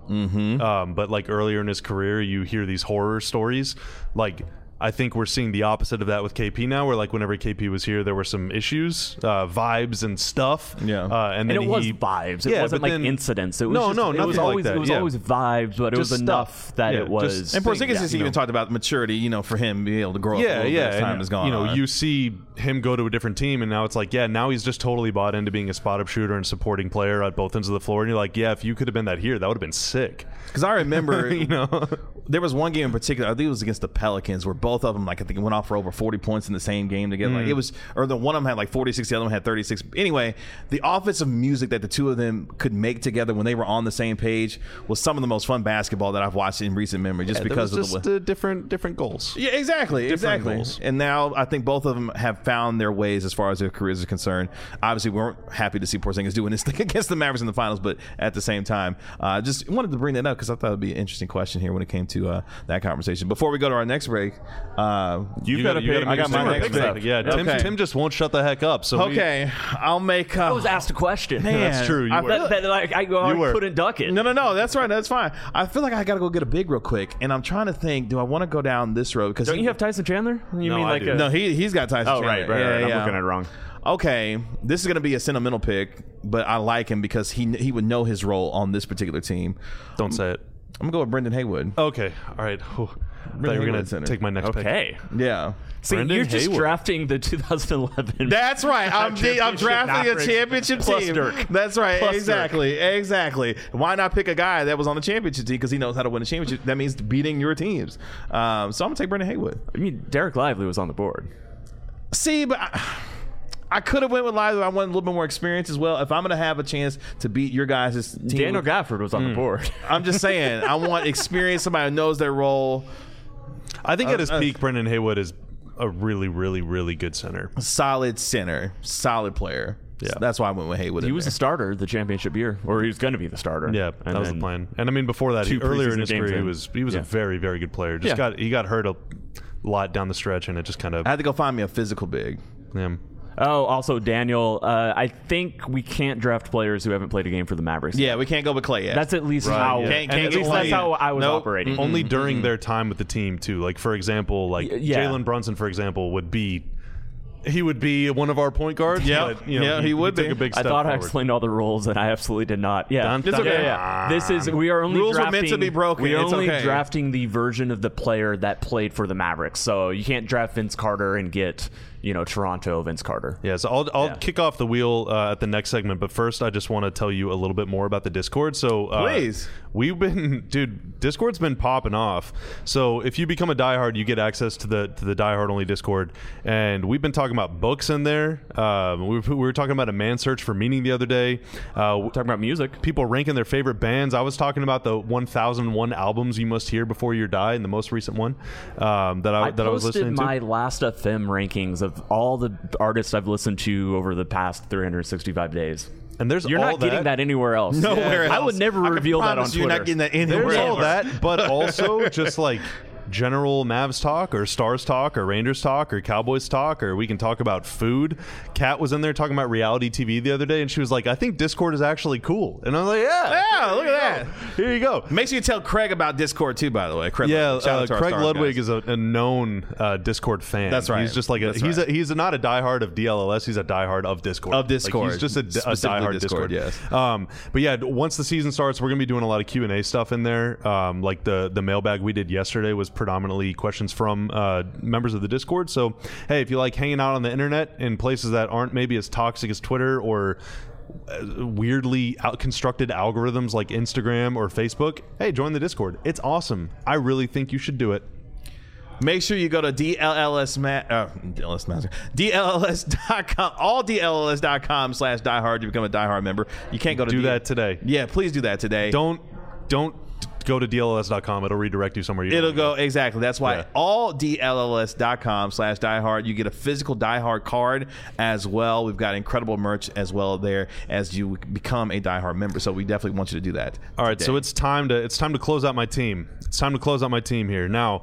But like earlier in his career, you hear these horror stories. Like I think we're seeing the opposite of that with KP now, where like whenever KP was here, there were some issues, vibes and stuff. And then it was vibes. It wasn't like incidents. It was nothing it was always, like that. It was always vibes, but it was enough that it was. And Porzingis has even talked about maturity, for him being able to grow up a little bit as time has gone on. You see him go to a different team, and now it's like, now he's just totally bought into being a spot-up shooter and supporting player at both ends of the floor. And you're like, if you could have been that here, that would have been sick. Because I remember, there was one game in particular, I think it was against the Pelicans, where both of them, like I think, went off for over 40 points in the same game together. Like it was, or the one of them had like 46, the other one had 36. Anyway, the offensive music that the two of them could make together when they were on the same page was some of the most fun basketball that I've watched in recent memory. Just because of the different goals. Yeah, exactly. Goals. And now I think both of them have found their ways as far as their careers are concerned. Obviously, we weren't happy to see Porzingis doing this thing against the Mavericks in the finals, but at the same time, just wanted to bring that up because I thought it would be an interesting question here when it came to that conversation. Before we go to our next break, you've got to pick. I got my next pick. Yeah, Tim just won't shut the heck up. So I'll make. I was asked a question. Man, that's true. I couldn't duck it. No, that's right. That's fine. I feel like I got to go get a big real quick, and I'm trying to think. Do I want to go down this road? Because don't you have Tyson Chandler? No, he's got Tyson Chandler. Right. I'm looking at it wrong. Okay, this is going to be a sentimental pick, but I like him because he would know his role on this particular team. Don't say it. I'm going to go with Brendan Haywood. Okay, all right. I thought you were going to take my next pick. Okay. Yeah. See, you're just drafting the 2011. That's right. I'm drafting a championship team. Dirk. That's right. Plus Exactly. Why not pick a guy that was on the championship team because he knows how to win a championship? That means beating your teams. So I'm going to take Brendan Haywood. I mean, Derek Lively was on the board. See, but I could have went with Lively. I wanted a little bit more experience as well. If I'm going to have a chance to beat your guys' team. Daniel Gafford was on the board. I'm just saying. I want experience, somebody who knows their role. I think at his peak, Brendan Haywood is a really, really, really good center. Solid center. Solid player. Yeah. So that's why I went with Haywood. He was the starter the championship year, or he was going to be the starter. Yeah, that was the plan. And I mean, before that, earlier in his career, he was a very, very good player. He got hurt a lot down the stretch, and it just kind of. I had to go find me a physical big. Yeah. Oh, also Daniel, I think we can't draft players who haven't played a game for the Mavericks. Yeah, we can't go with Clay yet. That's at least how. That's how I was operating. Only during their time with the team too. Like for example, Jalen Brunson, for example, would be one of our point guards. Yeah, he would be. A big step I thought forward. I explained all the rules, and I absolutely did not. Yeah, it's okay. Yeah. We are only rules drafting, are meant to be broken. We are only okay. drafting the version of the player that played for the Mavericks. So you can't draft Vince Carter and get Toronto Vince Carter. Yeah, so I'll kick off the wheel at the next segment, but first I just want to tell you a little bit more about the Discord. So please, Discord's been popping off. So if you become a diehard, you get access to the diehard only Discord, and we've been talking about books in there. We were talking about a man search for meaning the other day. Talking about music, people ranking their favorite bands. I was talking about the 1001 albums you must hear before you die, and the most recent one that I was listening to. I posted my Last FM rankings of all the artists I've listened to over the past 365 days. And you're not getting that anywhere else. Nowhere else. I would never reveal that on Twitter. You're not getting that anywhere. There's all that, but also just like general Mavs talk or Stars talk or Rangers talk or Cowboys talk, or we can talk about food. Kat was in there talking about reality TV the other day, and she was like, I think Discord is actually cool. And I was like, yeah, look at that. Here you go. Make sure you tell Craig about Discord too, by the way. Craig Ludwig is a known Discord fan. That's right. He's just like he's not a diehard of DLLS. He's a diehard of Discord. Of Discord. Like, he's just a diehard Discord. Yes. But yeah, once the season starts, we're gonna be doing a lot of Q&A stuff in there. Like the mailbag we did yesterday was predominantly questions from members of the Discord. So hey, if you like hanging out on the internet in places that aren't maybe as toxic as Twitter or weirdly constructed algorithms like Instagram or Facebook, hey, join the Discord. It's awesome. I really think you should do it. Make sure you go to DLLS.com, all DLLS.com/diehard to become a diehard member. You can't go to that today. Yeah, please do that today. Don't go to DLLS.com. It'll redirect you somewhere. It'll go, exactly. That's why all DLLS.com/diehard. You get a physical diehard card as well. We've got incredible merch as well there as you become a diehard member. So we definitely want you to do that. All right, so it's time to close out my team. It's time to close out my team here now.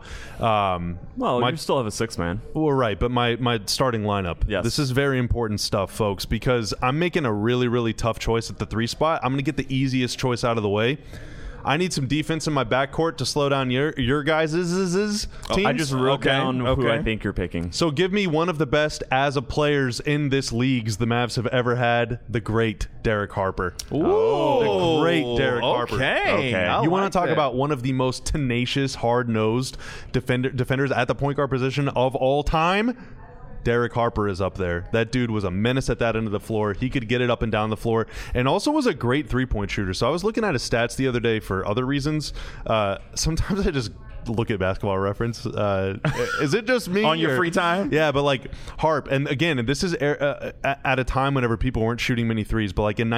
You still have a 6-man. Well, right, but my starting lineup. Yes. This is very important stuff, folks, because I'm making a really, really tough choice at the 3 spot. I'm going to get the easiest choice out of the way. I need some defense in my backcourt to slow down your guys' teams. I just wrote down who I think you're picking. So give me one of the best as a players in this leagues the Mavs have ever had, the great Derek Harper. Ooh. The great Derek Harper. Okay. You want to talk about one of the most tenacious, hard-nosed defenders at the point guard position of all time? Derek Harper is up there. That dude was a menace at that end of the floor. He could get it up and down the floor, and also was a great three-point shooter. So I was looking at his stats the other day for other reasons. Sometimes I just look at Basketball Reference. Is it just me on your free time? Yeah, but like Harp, and again, and this is at a time whenever people weren't shooting many threes, but like in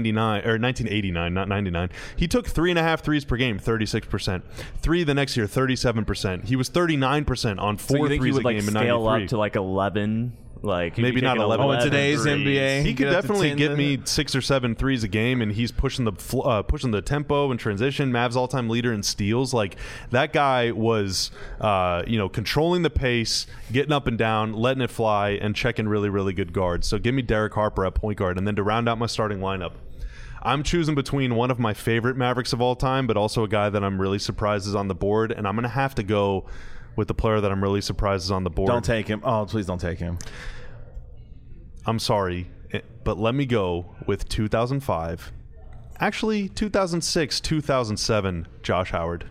1989, not 99, he took 3.5 threes per game, 36%. 3 the next year, 37%. He was 39% on 4 threes a game in 93. Scale up to like 11? Like maybe not 11. In today's NBA, he could definitely get me 6 or 7 threes a game, and he's pushing the tempo and transition. Mavs all-time leader in steals. Like that guy was, controlling the pace, getting up and down, letting it fly, and checking really, really good guards. So give me Derek Harper at point guard, and then to round out my starting lineup, I'm choosing between one of my favorite Mavericks of all time, but also a guy that I'm really surprised is on the board, and I'm going to have to go with the player that I'm really surprised is on the board. Don't take him. Oh, please don't take him. I'm sorry, but let me go with 2005. Actually, 2006, 2007, Josh Howard.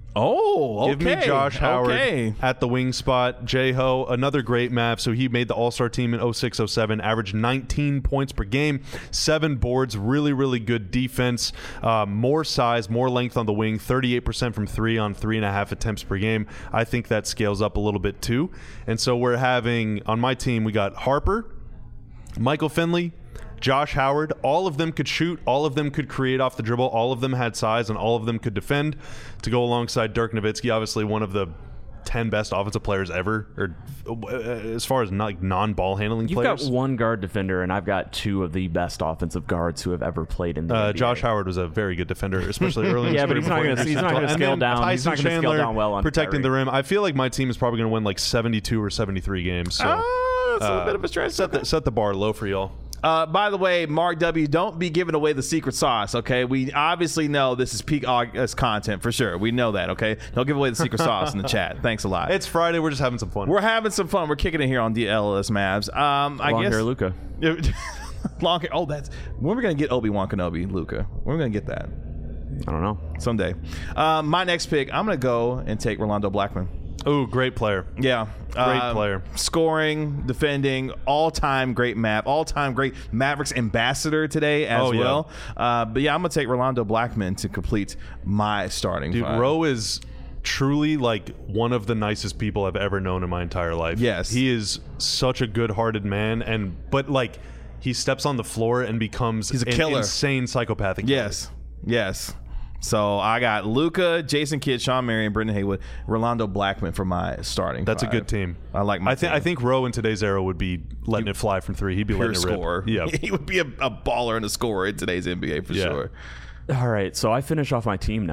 Oh, okay. Give me Josh Howard at the wing spot. J-Ho, another great Mav. So he made the All-Star team in 06-07, averaged 19 points per game, 7 boards, really, really good defense, more size, more length on the wing, 38% from 3 on 3.5 attempts per game. I think that scales up a little bit too. And so we're having, on my team, we got Harper, Michael Finley, Josh Howard. All of them could shoot. All of them could create off the dribble. All of them had size, and all of them could defend, to go alongside Dirk Nowitzki, obviously one of the 10 best offensive players ever, or as far as non-ball handling players. You've got one guard defender, and I've got 2 of the best offensive guards who have ever played in the NBA. Josh Howard was a very good defender, especially early in his career. Yeah, but he's not going to scale down. Tyson he's not going to scale down well on protecting the rim. I feel like my team is probably going to win like 72 or 73 games. So that's a bit of a stretch. Set the bar low for y'all. By the way, Mark W., don't be giving away the secret sauce, okay? We obviously know this is peak August content for sure. We know that, okay? Don't give away the secret sauce in the chat. Thanks a lot. It's Friday. We're just having some fun. We're having some fun. We're kicking it here on DLLS Mavs. Long hair Luka. Long hair. Oh, when are we going to get Obi-Wan Kenobi, Luka? When are we going to get that? I don't know. Someday. My next pick, I'm going to go and take Rolando Blackman. Ooh, great player. Yeah. Great player. Scoring, defending, all-time great all-time great Mavericks ambassador today as well. But yeah, I'm going to take Rolando Blackman to complete my starting five. Dude, Ro is truly like one of the nicest people I've ever known in my entire life. Yes. He is such a good-hearted man, but like he steps on the floor and becomes He's a killer. Insane psychopathic. Yes. Yes. So I got Luka, Jason Kidd, Sean Marion, Brendan Haywood, Rolando Blackman for my starting That's five. A good team. I like my team. I think Ro in today's era would be letting it fly from 3. He'd be letting it rip. Scorer. Yeah. He would be a baller and a scorer in today's NBA for sure. All right, so I finish off my team now.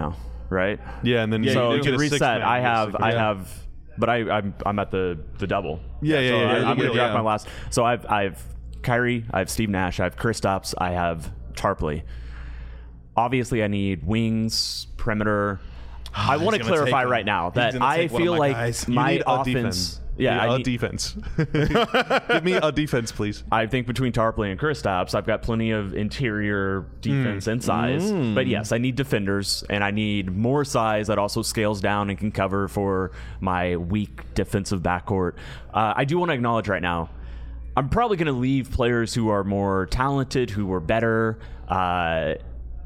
right? Yeah, and then so you to get a reset, I have, but I'm at the double. Yeah. I'm going to draft my last. So I've Kyrie, I have Steve Nash, I have Kristaps, I have Tarpley. Obviously, I need wings, perimeter. I want to clarify right now that I feel like my offense. Yeah, I need defense. Give me a defense, please. I think between Tarpley and Kristaps, I've got plenty of interior defense and size. But yes, I need defenders, and I need more size that also scales down and can cover for my weak defensive backcourt. I do want to acknowledge right now, I'm probably going to leave players who are more talented, who are better. I'm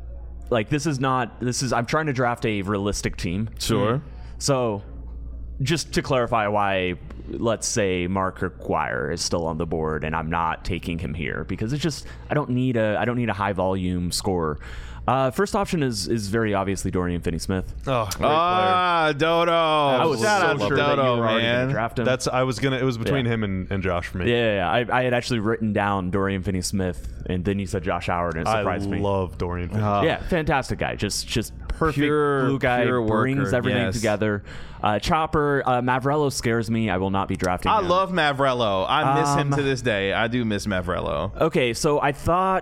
trying to draft a realistic team. Sure. So, just to clarify why, let's say Mark Aguirre is still on the board and I'm not taking him here because it's just I don't need a high volume scorer. First option is very obviously Dorian Finney-Smith. Oh, great player. Dodo! I was so sure that you were already going to draft him. It was between him and Josh for me. Yeah. I had actually written down Dorian Finney-Smith, and then you said Josh Howard, and it surprised me. I love Dorian Finney-Smith. Yeah, fantastic guy. Just perfect glue guy, brings everything together. Chopper, Mavrello scares me. I will not be drafting him. I love Mavrello. I miss him to this day. I do miss Mavrello. Okay, so I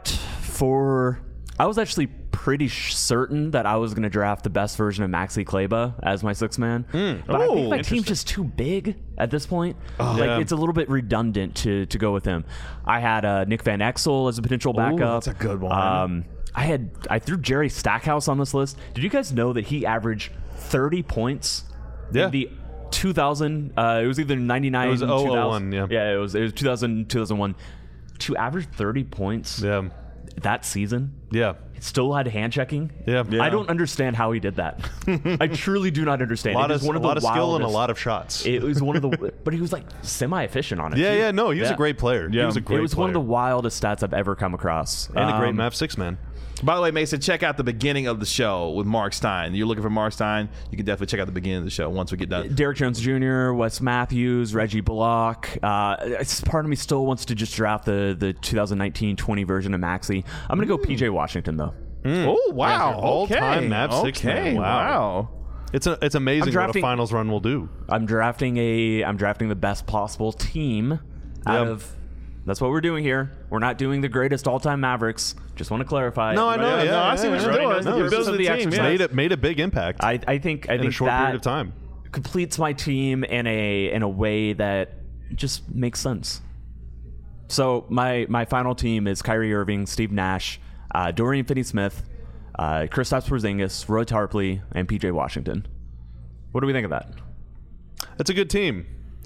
was actually pretty certain that I was going to draft the best version of Maxi Kleber as my sixth man. But I think my team's just too big at this point. It's a little bit redundant to go with him. I had Nick Van Exel as a potential backup. That's a good one. I threw Jerry Stackhouse on this list. Did you guys know that he averaged 30 points in the 2000? It was either 99 it was 2001. Yeah, it was 2000, 2001. To average 30 points that season. Yeah. Still had hand checking. Yeah. I don't understand how he did that. I truly do not understand. A lot of skill and a lot of shots. It was one of the, but he was like semi-efficient on it. Yeah. No, he was a great player. Yeah. He was a great player. It was one of the wildest stats I've ever come across. And a great Mav six man. By the way, Mason, check out the beginning of the show with Mark Stein. You're looking for Mark Stein, you can definitely check out the beginning of the show once we get done. Derek Jones Jr., Wes Matthews, Reggie Bullock. Part of me still wants to just draft the 2019-20 version of Maxi. I'm going to go PJ Washington, though. Oh, wow. All-time Mav six man. Wow. It's amazing what a finals run will do. I'm drafting the best possible team out of... That's what we're doing here. We're not doing the greatest all-time Mavericks. Just want to clarify. No, I know. I see what you're doing. You're building the team. Made a big impact. I think in a short period of time completes my team in a way that just makes sense. So my final team is Kyrie Irving, Steve Nash, Dorian Finney-Smith, Kristaps Porzingis, Roy Tarpley, and PJ Washington. What do we think of that? That's a good team.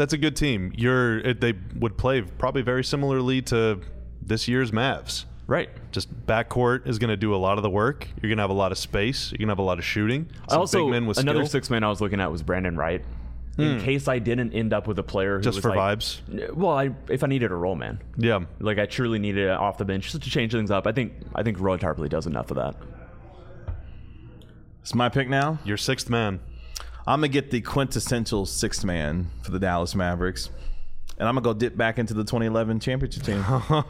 They would play probably very similarly to this year's Mavs. Right. Just backcourt is going to do a lot of the work. You're going to have a lot of space. You're going to have a lot of shooting. Also, big men with another skill. six man I was looking at was Brandon Wright. In case I didn't end up with a player who just was for like, vibes. Well, if I needed a role man. Yeah. Like I truly needed it off the bench just to change things up. I think Roy Tarpley does enough of that. It's my pick now. Your sixth man. I'm going to get the quintessential sixth man for the Dallas Mavericks. And I'm going to go dip back into the 2011 championship team.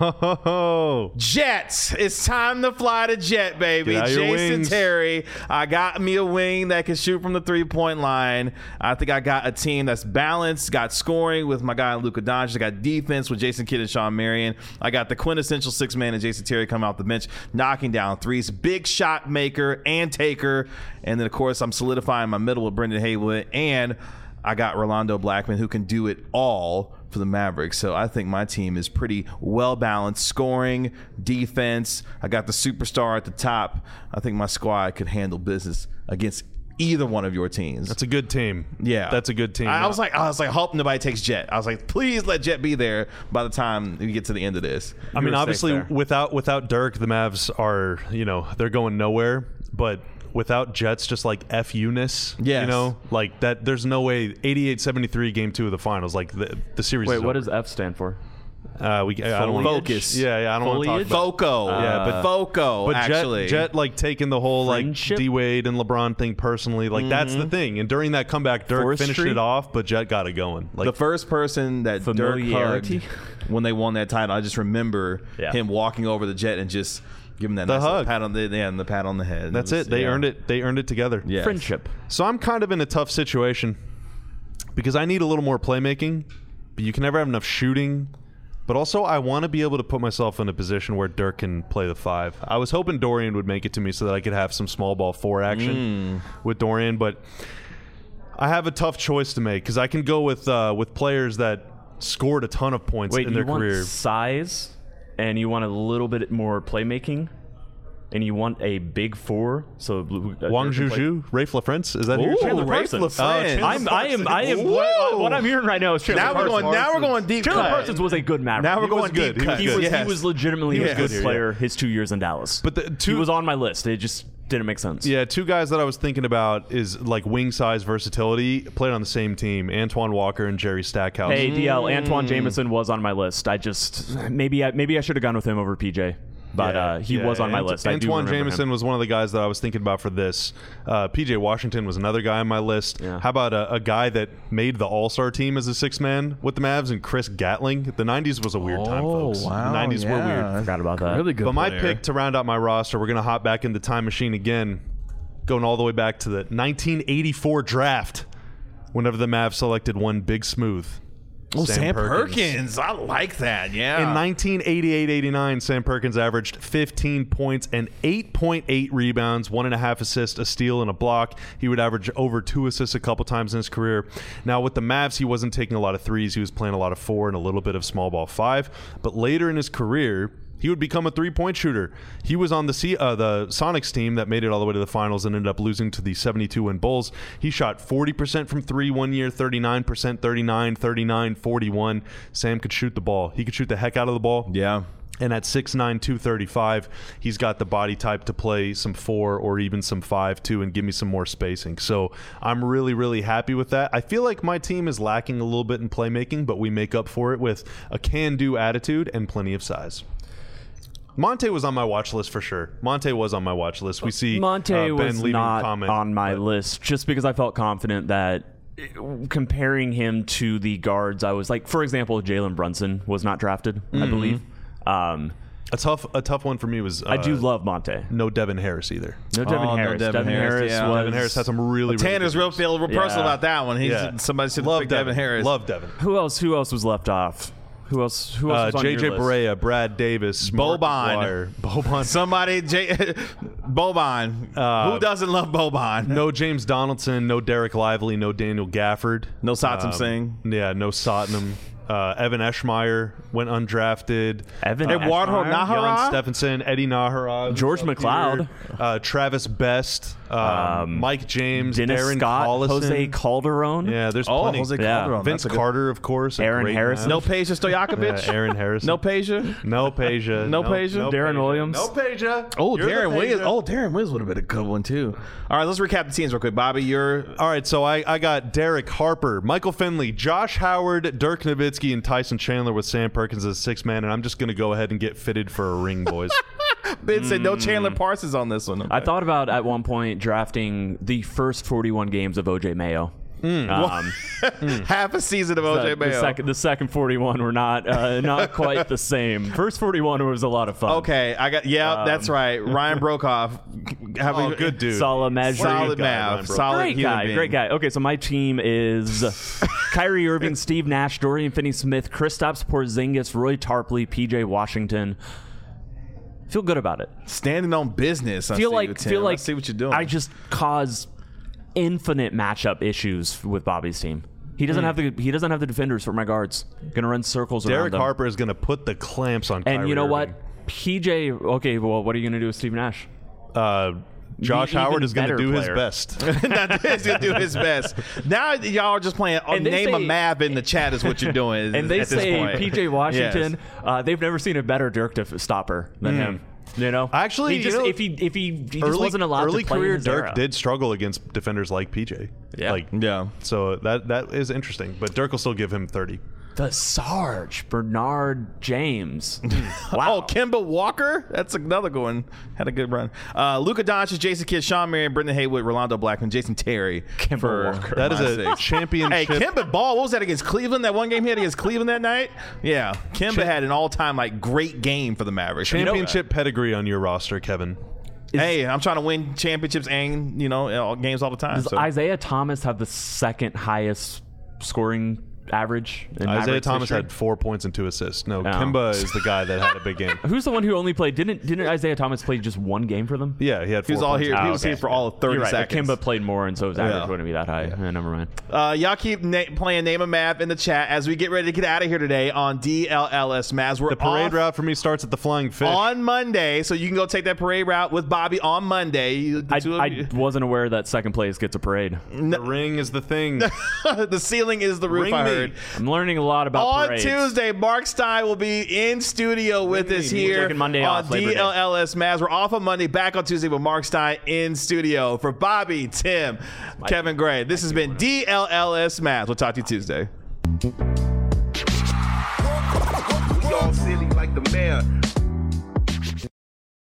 Jets. It's time to fly the Jet, baby. Jason Terry. I got me a wing that can shoot from the three-point line. I think I got a team that's balanced, got scoring with my guy Luka Doncic. I got defense with Jason Kidd and Sean Marion. I got the quintessential six man and Jason Terry coming off the bench, knocking down threes. Big shot maker and taker. And then, of course, I'm solidifying my middle with Brendan Haywood. And I got Rolando Blackman, who can do it all for the Mavericks. So I think my team is pretty well balanced. Scoring, defense. I got the superstar at the top. I think my squad could handle business against either one of your teams. That's a good team. Yeah, that's a good team. I was like, hope nobody takes Jet. I was like, please let Jet be there by the time we get to the end of this. I mean, obviously, without Dirk, the Mavs are they're going nowhere. But without Jets, just like FU-ness, like that. There's no way 88-73 game 2 of the finals. Like the series. Wait, is what over. does F stand for? I don't want to focus. Yeah, I don't want to talk about Foco. Foco. But actually, Jet like taking the whole Friendship? like D Wade and LeBron thing personally. Like that's the thing. And during that comeback, Dirk finished it off, but Jet got it going. Like the first person that Dirk hugged when they won that title, I just remember him walking over the Jet and just Give them that The nice little hug. pat on the pat on the head. That's it. They earned it. They earned it together. Yes. Friendship. So I'm kind of in a tough situation because I need a little more playmaking, but you can never have enough shooting. But also, I want to be able to put myself in a position where Dirk can play the 5. I was hoping Dorian would make it to me so that I could have some small ball 4 action with Dorian, but I have a tough choice to make because I can go with players that scored a ton of points in their career. You want size, and you want a little bit more playmaking, and you want a big 4. So Wang Zhuzhu, Rafe LaFrance, is that who you're Chandler Rafe Parsons. LaFrance. I am. What I'm hearing right now is Chandler Parsons. Now we're going deep. Chandler cut. Parsons was a good Maverick. Now we're going good. deep. Cut. He was legitimately a good player his 2 years in Dallas. But he was on my list. It just didn't make sense. Yeah, 2 guys that I was thinking about is like wing size versatility, played on the same team, Antoine Walker and Jerry Stackhouse. Hey, DL, Antoine Jameson was on my list. I just maybe I should have gone with him over PJ. But he was on my list. Antoine Jameson was one of the guys that I was thinking about for this. PJ Washington was another guy on my list. Yeah. How about a guy that made the All-Star team as a 6th man with the Mavs, and Chris Gatling? The 90s was a weird time, folks. Wow, the 90s were weird. Forgot about that. Really good. But my player. pick to round out my roster, we're going to hop back in the time machine again, going all the way back to the 1984 draft, whenever the Mavs selected one Big Smooth. Oh, Sam Perkins. I like that. Yeah. In 1988-89, Sam Perkins averaged 15 points and 8.8 rebounds, 1.5 assists, a steal, and a block. He would average over 2 assists a couple times in his career. Now, with the Mavs, he wasn't taking a lot of threes. He was playing a lot of 4 and a little bit of small ball 5. But later in his career, he would become a 3-point shooter. He was on the Sonics team that made it all the way to the finals and ended up losing to the 72-win Bulls. He shot 40% from 3 one year, 39%, 39, 39, 41. Sam could shoot the ball. He could shoot the heck out of the ball. Yeah. And at 6'9", 235, he's got the body type to play some 4 or even some 5 too, and give me some more spacing. So I'm really, really happy with that. I feel like my team is lacking a little bit in playmaking, but we make up for it with a can-do attitude and plenty of size. Monte was on my watch list for sure. Monte was on my watch list. We see Monte Ben was leaving not a comment, on my list just because I felt confident that comparing him to the guards, I was like, for example, Jalen Brunson was not drafted, I believe. A tough one for me was I do love Monte. no Devin Harris either. No Devin Harris. Devin Harris, yeah. Devin Harris had some really Tanner's really real feel real personal about that one. Somebody should love pick Devin Harris. Love Devin. Who else was left off? Who else was on your JJ list? Barea, Brad Davis, Boban. Somebody, Boban. Who doesn't love Boban? No James Donaldson, no Derek Lively, no Daniel Gafford. No Satnam Singh. Yeah, no Satnam. Evan Eschmeyer went undrafted. Eduardo Eschmeyer? Nahara? Jan Stephenson, Eddie Nahara, George McLeod. Travis Best, Mike James, Dennis Darren Scott, Collison. Jose Calderon. Yeah, there's Oh, plenty. Jose Yeah. Calderon. Vince Carter, of course. a Aaron great Harrison. No man. Peja Stojakovic? Yeah, Aaron Harrison. No Peja? No Peja. No Peja? Darren Williams. No Peja. Oh, You're the Darren Williams. Peja. Oh, Darren Williams would have been a good one, too. All right, let's recap the teams real quick. Bobby, you're... All right, so I got Derek Harper, Michael Finley, Josh Howard, Dirk Nowitzki, and Tyson Chandler with Sam Perkins as 6th man, and I'm just going to go ahead and get fitted for a ring, boys. Ben said no Chandler Parsons on this one. Okay. I thought about at one point drafting the first 41 games of OJ Mayo. half a season of OJ Mayo. The second 41 were not quite the same. First 41 was a lot of fun. Okay, that's right. Ryan Brokoff. Good dude. Solid Mav. Solid Mav. Solid Great guy. Okay, so my team is Kyrie Irving, Steve Nash, Dorian Finney-Smith, Kristaps Porzingis, Roy Tarpley, PJ Washington. Feel good about it. Standing on business. Feel like I see what you're doing. I just cause infinite matchup issues with Bobby's team. He doesn't have the defenders for my guards. Gonna run circles around Derek them. Harper is going to put the clamps on Kyrie And you know Irving. what? PJ. Okay, well, what are you gonna do with Steve Nash? Josh Even Howard is going to better do his player. best. He's gonna do his best. Now y'all are just playing. And they Name a say- Mav in the chat is what you're doing. And they at this say point. PJ Washington. They've never seen a better Dirk stopper than him. You know, Actually, he just, you know, if he just wasn't allowed early to play career in his Dirk era. did struggle against defenders like PJ. Yeah. So that is interesting. But Dirk will still give him 30. The Sarge, Bernard James. Wow. Oh, Kemba Walker? That's another good one. Had a good run. Luka Doncic, Jason Kidd, Sean Marion, Brendan Haywood, Rolando Blackman, Jason Terry. Kemba Walker. That is a championship. Hey, Kemba ball. What was that against Cleveland? That one game he had against Cleveland that night? Yeah. Kemba had an all-time great game for the Mavericks. Championship pedigree on your roster, Kevin. Hey, I'm trying to win championships and, games all the time. Does Isaiah Thomas have the second highest scoring average? Isaiah Thomas had 4 points and 2 assists. No, Kemba is the guy that had a big game. Who's the one who only played? Didn't Isaiah Thomas play just one game for them? Yeah, he had 4 He was all points. here. He was here for all of 30 seconds. Kemba played more, and so his average wouldn't be that high. Yeah. Never mind. Y'all keep playing Name a Mav in the chat as we get ready to get out of here today on DLLS Mavs. The parade route for me starts at the Flying Fish on Monday, so you can go take that parade route with Bobby on Monday. I wasn't aware that second place gets a parade. The ring is the thing. The ceiling is the roof. I heard. I'm learning a lot about parades. On Tuesday, Mark Stein will be in studio with us here Monday on off, DLLS Mavs. We're off on Monday, back on Tuesday with Mark Stein in studio. For Bobby, Tim, Kevin Gray, this has been DLLS Mavs. We'll talk to you Tuesday. We all silly like the mayor.